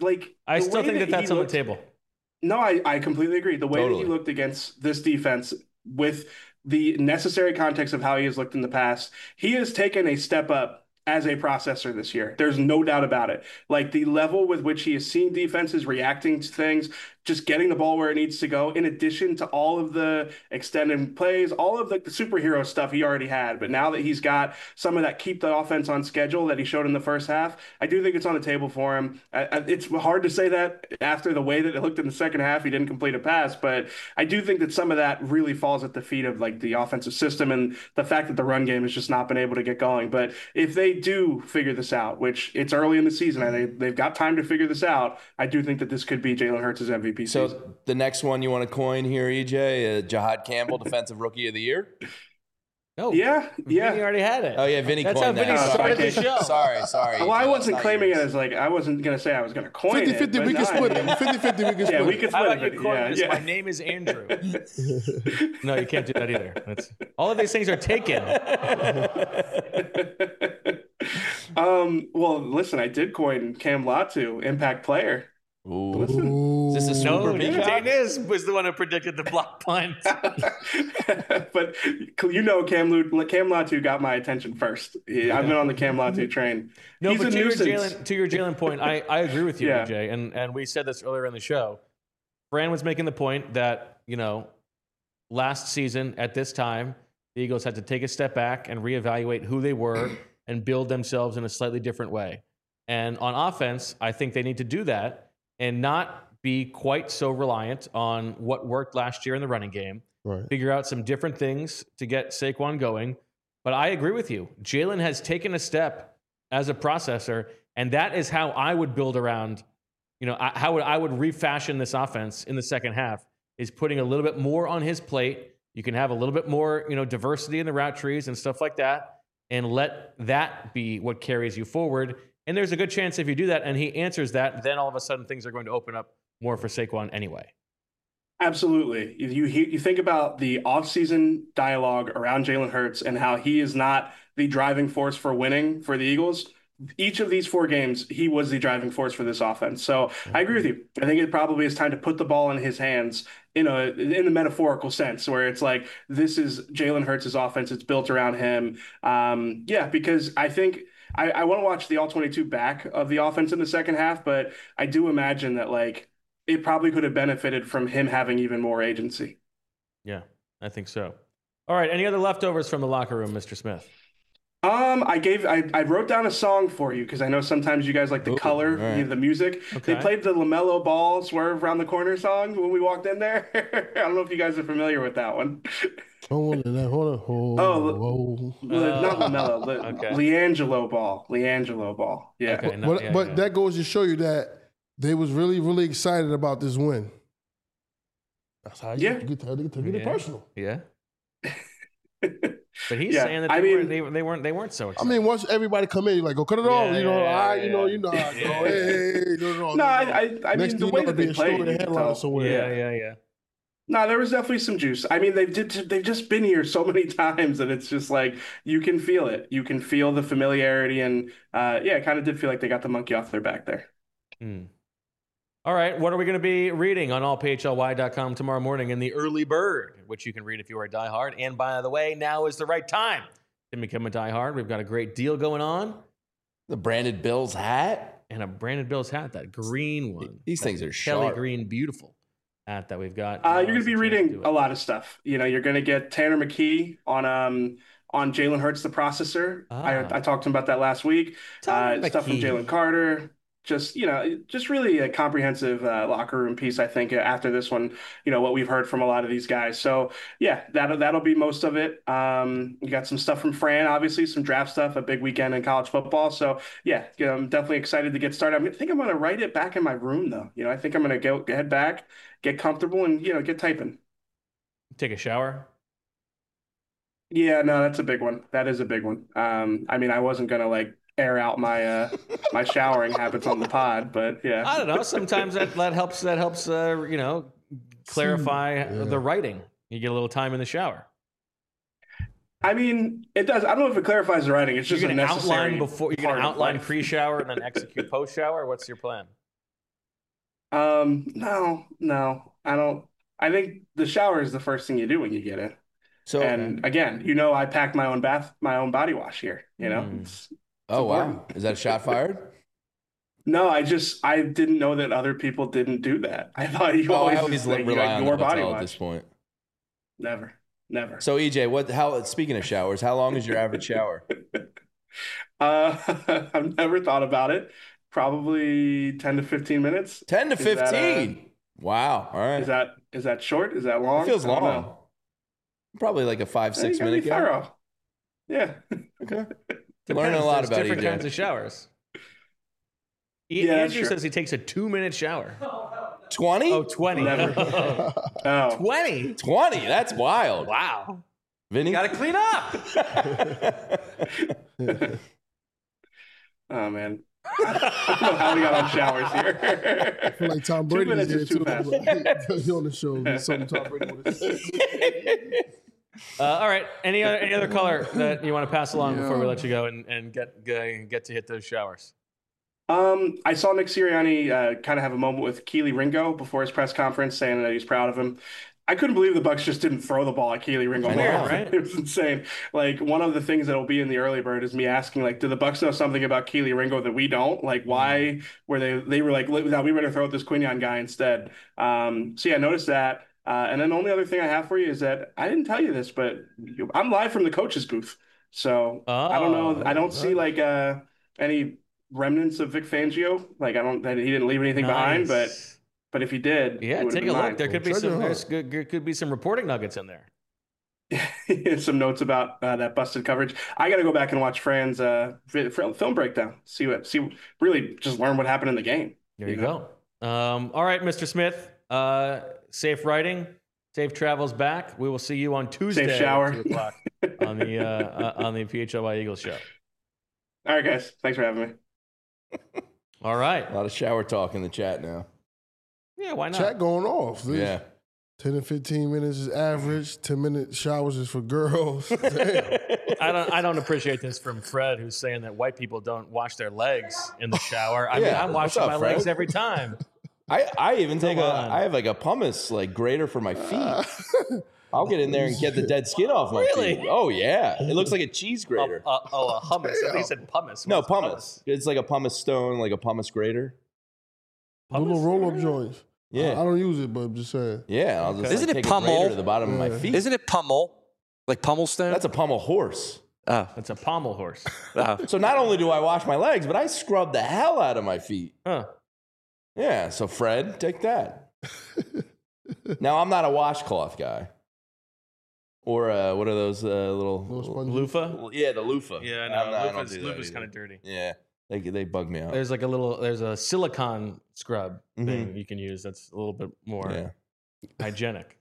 I still think that's on the table. No, I completely agree. The way that he looked against this defense with the necessary context of how he has looked in the past, he has taken a step up as a processor this year. There's no doubt about it. Like the level with which he has seen defenses reacting to things, just getting the ball where it needs to go, in addition to all of the extended plays, all of the superhero stuff he already had. But now that he's got some of that keep the offense on schedule that he showed in the first half, I do think it's on the table for him. It's hard to say that after the way that it looked in the second half. He didn't complete a pass, but I do think that some of that really falls at the feet of like the offensive system and the fact that the run game has just not been able to get going. But if they do figure this out, which it's early in the season and they've got time to figure this out, I do think that this could be Jalen Hurts' MVP season. So the next one you want to coin here, EJ, Jahad Campbell, Defensive Rookie of the Year? No. Yeah. Vinny already had it. Oh, yeah, Vinny That's coined how Vinny that. started the show. Sorry. Well, I wasn't claiming it as like, I wasn't going to say I was going to coin 50-50, it. we can split it. 50-50, we can split it. Yeah, we can How split about it. you coin this? My name is Andrew. No, you can't do that either. All of these things are taken. Well, listen, I did coin Cam Latu, impact player. Ooh. Listen. Is this a super peacock? Daniz was the one who predicted the block punt. But you know, Cam Latu got my attention first. I've been on the Cam Latu train. No, He's but a nuisance. to your Jalen point, I agree with you, Yeah. Jay, and we said this earlier in the show. Fran was making the point that, last season at this time, the Eagles had to take a step back and reevaluate who they were and build themselves in a slightly different way. And on offense, I think they need to do that and not be quite so reliant on what worked last year in the running game. Right. Figure out some different things to get Saquon going. But I agree with you. Jalen has taken a step as a processor, and that is how I would build around, how I would refashion this offense in the second half, is putting a little bit more on his plate. You can have a little bit more, diversity in the route trees and stuff like that, and let that be what carries you forward. And there's a good chance if you do that and he answers that, then all of a sudden things are going to open up more for Saquon anyway. Absolutely. You think about the offseason dialogue around Jalen Hurts and how he is not the driving force for winning for the Eagles. Each of these 4 games, he was the driving force for this offense. So I agree with you. I think it probably is time to put the ball in his hands in the metaphorical sense, where it's like, this is Jalen Hurts' offense. It's built around him. Because I think I want to watch the all-22 back of the offense in the second half, but I do imagine that it probably could have benefited from him having even more agency. Yeah, I think so. All right. Any other leftovers from the locker room, Mr. Smith? I wrote down a song for you because I know sometimes you guys like the color, right. the music. Okay. They played the LaMelo Ball Swerve Around the Corner song when we walked in there. I don't know if you guys are familiar with that one. Not LaMelo, Okay. LiAngelo Ball. Yeah. Okay, but that goes to show you that they was really, really excited about this win. That's how you get it personal. Yeah. But he's saying that they weren't so excited. I mean, once everybody come in, you're like, go cut it off. You know how it go. Hey, no, I mean, the way that they played. Yeah. No, there was definitely some juice. I mean, they've just been here so many times that it's just like you can feel it. You can feel the familiarity, and it kind of did feel like they got the monkey off their back there. All right, what are we going to be reading on allphly.com tomorrow morning in the Early Bird, which you can read if you are a diehard. And by the way, now is the right time to become a diehard. We've got a great deal going on. The branded Bills hat. And a branded Bills hat, that green one. These things are Kelly sharp. Green, beautiful hat that we've got. You're going to be reading a lot of stuff. You're going to get Tanner McKee on Jalen Hurts, the processor. I talked to him about that last week. Stuff from Jalen Carter. Just really a comprehensive locker room piece, I think, after this one, what we've heard from a lot of these guys. So, yeah, that'll be most of it. You got some stuff from Fran, obviously, some draft stuff, a big weekend in college football. So, yeah, I'm definitely excited to get started. I think I'm going to write it back in my room, though. I think I'm going to head back, get comfortable, and, get typing. Take a shower? Yeah, no, that's a big one. That is a big one. I mean, I wasn't going to, air out my my showering habits on the pod, but yeah. I don't know. Sometimes that helps. That helps. Clarify the writing. You get a little time in the shower. I mean, it does. I don't know if it clarifies the writing. It's just a necessary. You're gonna outline pre-shower and then execute post-shower. What's your plan? No, I don't. I think the shower is the first thing you do when you get in. So, and again, I pack my own my body wash here. Oh, wow. Is that a shot fired? No, I didn't know that other people didn't do that. I thought you always rely on your body wash at this point. Never. So EJ, speaking of showers, how long is your average shower? I've never thought about it. Probably 10 to 15 minutes. 10 to 15. Wow. All right. Is that short? Is that long? It feels long. Probably like a 5-6 minute thorough. Yeah. Okay. Learning a lot about different kinds of showers. Andrew says he takes a 2-minute shower. 20? Oh, 20. Never. 20? 20? That's wild. Wow. Vinny? Got to clean up. Oh, man. I don't know how we got on showers here. I feel like Tom Brady 2 minutes is too fast. He on the show. There's something Tom Brady would have said. All right. Any other color that you want to pass along before we let you go and get to hit those showers? I saw Nick Sirianni kind of have a moment with Kelee Ringo before his press conference, saying that he's proud of him. I couldn't believe the Bucs just didn't throw the ball at Kelee Ringo. Right? It was insane. Like, one of the things that will be in the early bird is me asking, like, do the Bucs know something about Kelee Ringo that we don't? Like, why were they were like, no, we better throw at this Quinyon guy instead. So yeah, I noticed that. And then the only other thing I have for you is that I didn't tell you this, but I'm live from the coach's booth. So I don't know. I don't see like any remnants of Vic Fangio. Like, he didn't leave anything behind, but if he did, take a look. There could be there could be some reporting nuggets in there. Some notes about that busted coverage. I got to go back and watch Fran's film breakdown. Really just learn what happened in the game. There you go. All right, Mr. Smith. Safe riding, safe travels back. We will see you on Tuesday. Safe shower. At 2 o'clock on the PHLY Eagles show. All right, guys. Thanks for having me. All right. A lot of shower talk in the chat now. Yeah, why not? Chat going off. Yeah. 10 and 15 minutes is average. 10-minute showers is for girls. Damn. I don't appreciate this from Fred, who's saying that white people don't wash their legs in the shower. I mean, I'm washing my legs every time. I even I have like a pumice like grater for my feet. I'll get in there and get the dead skin off my feet. Oh yeah, it looks like a cheese grater. A hummus. I think you said pumice. No, pumice. It's like a pumice stone, like a pumice grater. Little roll-up joints. Yeah, I don't use it, but I'm just saying. Yeah, I'll just Isn't it take pummel? a grater to the bottom of my feet. Isn't it pummel? Like pummel stone? That's a pummel horse. It's a pommel horse. So not only do I wash my legs, but I scrub the hell out of my feet. Huh. Yeah, so Fred, take that. Now, I'm not a washcloth guy. Or what are those little loofah? Yeah, the loofah. Yeah, no, loofah's kind of dirty. Yeah, they bug me out. There's a silicone scrub thing you can use that's a little bit more hygienic.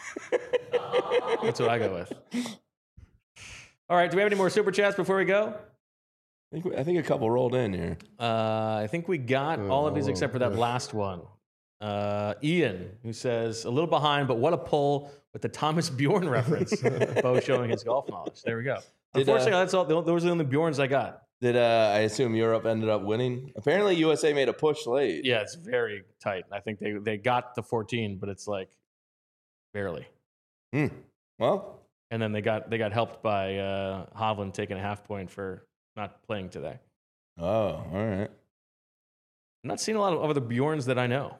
That's what I go with. All right, do we have any more super chats before we go? I think a couple rolled in here. I think we got all of these except for that last one. Ian, who says, a little behind, but what a pull with the Thomas Bjorn reference. Bo showing his golf knowledge. There we go. Unfortunately, that's all. Those are the only Bjorns I got. Did I assume Europe ended up winning? Apparently, USA made a push late. Yeah, it's very tight. I think they got the 14, but it's like barely. Well, and then they got helped by Hovland taking a half point for not playing today. Oh, all right. I'm not seeing a lot of other Bjorns that I know.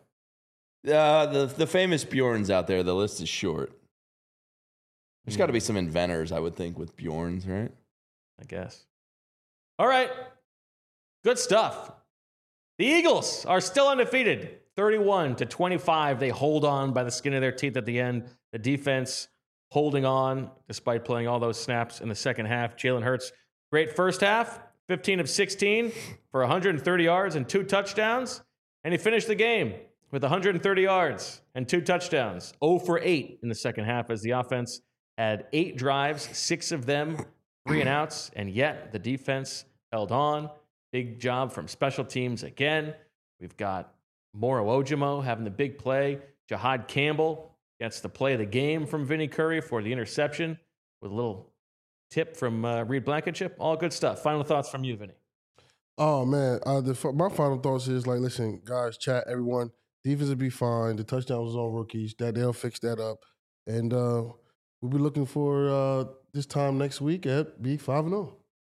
The famous Bjorns out there, the list is short. There's got to be some inventors, I would think, with Bjorns, right? I guess. All right. Good stuff. The Eagles are still undefeated. 31-25. They hold on by the skin of their teeth at the end. The defense holding on despite playing all those snaps in the second half. Jalen Hurts, great first half. 15 of 16 for 130 yards and 2 touchdowns. And he finished the game with 130 yards and 2 touchdowns. 0 for 8 in the second half as the offense had 8 drives, 6 of them 3 and outs, and yet the defense held on. Big job from special teams again. We've got Moro Ojimo having the big play. Jahad Campbell gets the play of the game from Vinny Curry for the interception with a little tip from Reed Blankenship. All good stuff. Final thoughts from you, Vinny. Oh, man. My final thoughts is, like, listen, guys, chat, everyone, defense will be fine. The touchdown was on rookies. They'll fix that up. And we'll be looking for this time next week at Be 5-0.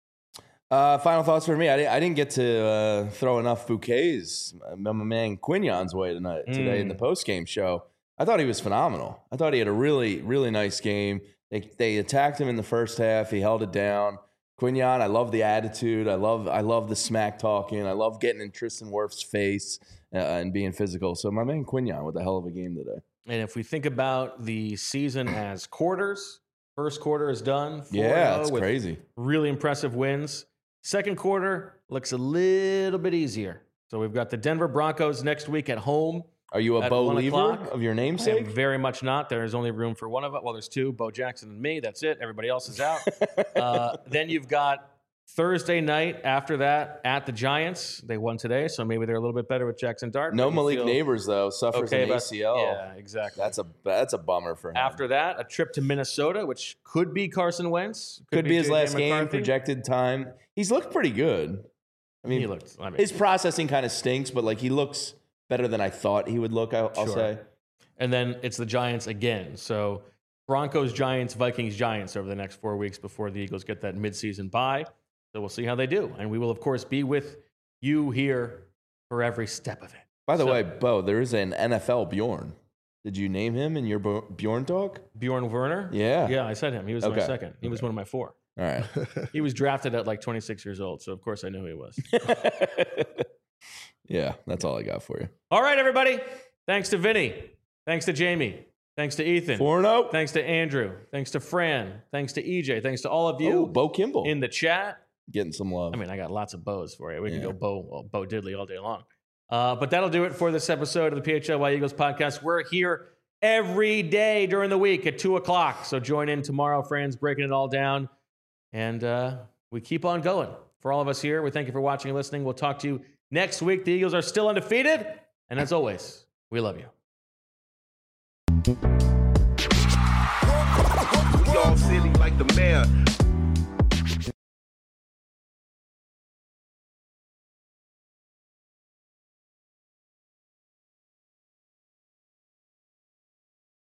Final thoughts for me. I didn't get to throw enough bouquets my man Quinyon's way today in the post-game show. I thought he was phenomenal. I thought he had a really, really nice game. They attacked him in the first half. He held it down. Quinyon, I love the attitude. I love the smack talking. I love getting in Tristan Wirf's face and being physical. So my man Quinyon with a hell of a game today. And if we think about the season as quarters, first quarter is done. Yeah, it's crazy. Really impressive wins. Second quarter looks a little bit easier. So we've got the Denver Broncos next week at home. Are you a Bo Lever of your I am namesake? very much not. There is only room for one of us. Well, there's two, Bo Jackson and me. That's it. Everybody else is out. Then you've got Thursday night after that at the Giants. They won today, so maybe they're a little bit better with Jackson Dart. No Malik Neighbors, though. Suffers an ACL. Yeah, exactly. That's a bummer for him. After that, a trip to Minnesota, which could be Carson Wentz. Could be his last McCarthy. game, projected time. He's looked pretty good. I mean, his processing kind of stinks, but like he looks better than I thought he would look, I'll say. And then it's the Giants again. So Broncos, Giants, Vikings, Giants over the next 4 weeks before the Eagles get that midseason bye. So we'll see how they do. And we will, of course, be with you here for every step of it. By the way, Bo, there is an NFL Bjorn. Did you name him in your Bjorn talk? Bjorn Werner? Yeah. Yeah, I said him. He was my second. He was one of my 4. All right. He was drafted at like 26 years old. So, of course, I knew who he was. Yeah, that's all I got for you. All right, everybody. Thanks to Vinny. Thanks to Jamie. Thanks to Ethan. 4-0. Thanks to Andrew. Thanks to Fran. Thanks to EJ. Thanks to all of you. Bo Kimball. In the chat. Getting some love. I mean, I got lots of Bo's for you. We can go Bo Diddley all day long. But that'll do it for this episode of the PHLY Eagles podcast. We're here every day during the week at 2 o'clock. So join in tomorrow, friends, breaking it all down. And we keep on going. For all of us here, we thank you for watching and listening. We'll talk to you next week. The Eagles are still undefeated. And as always, we love you. We all silly like the mayor.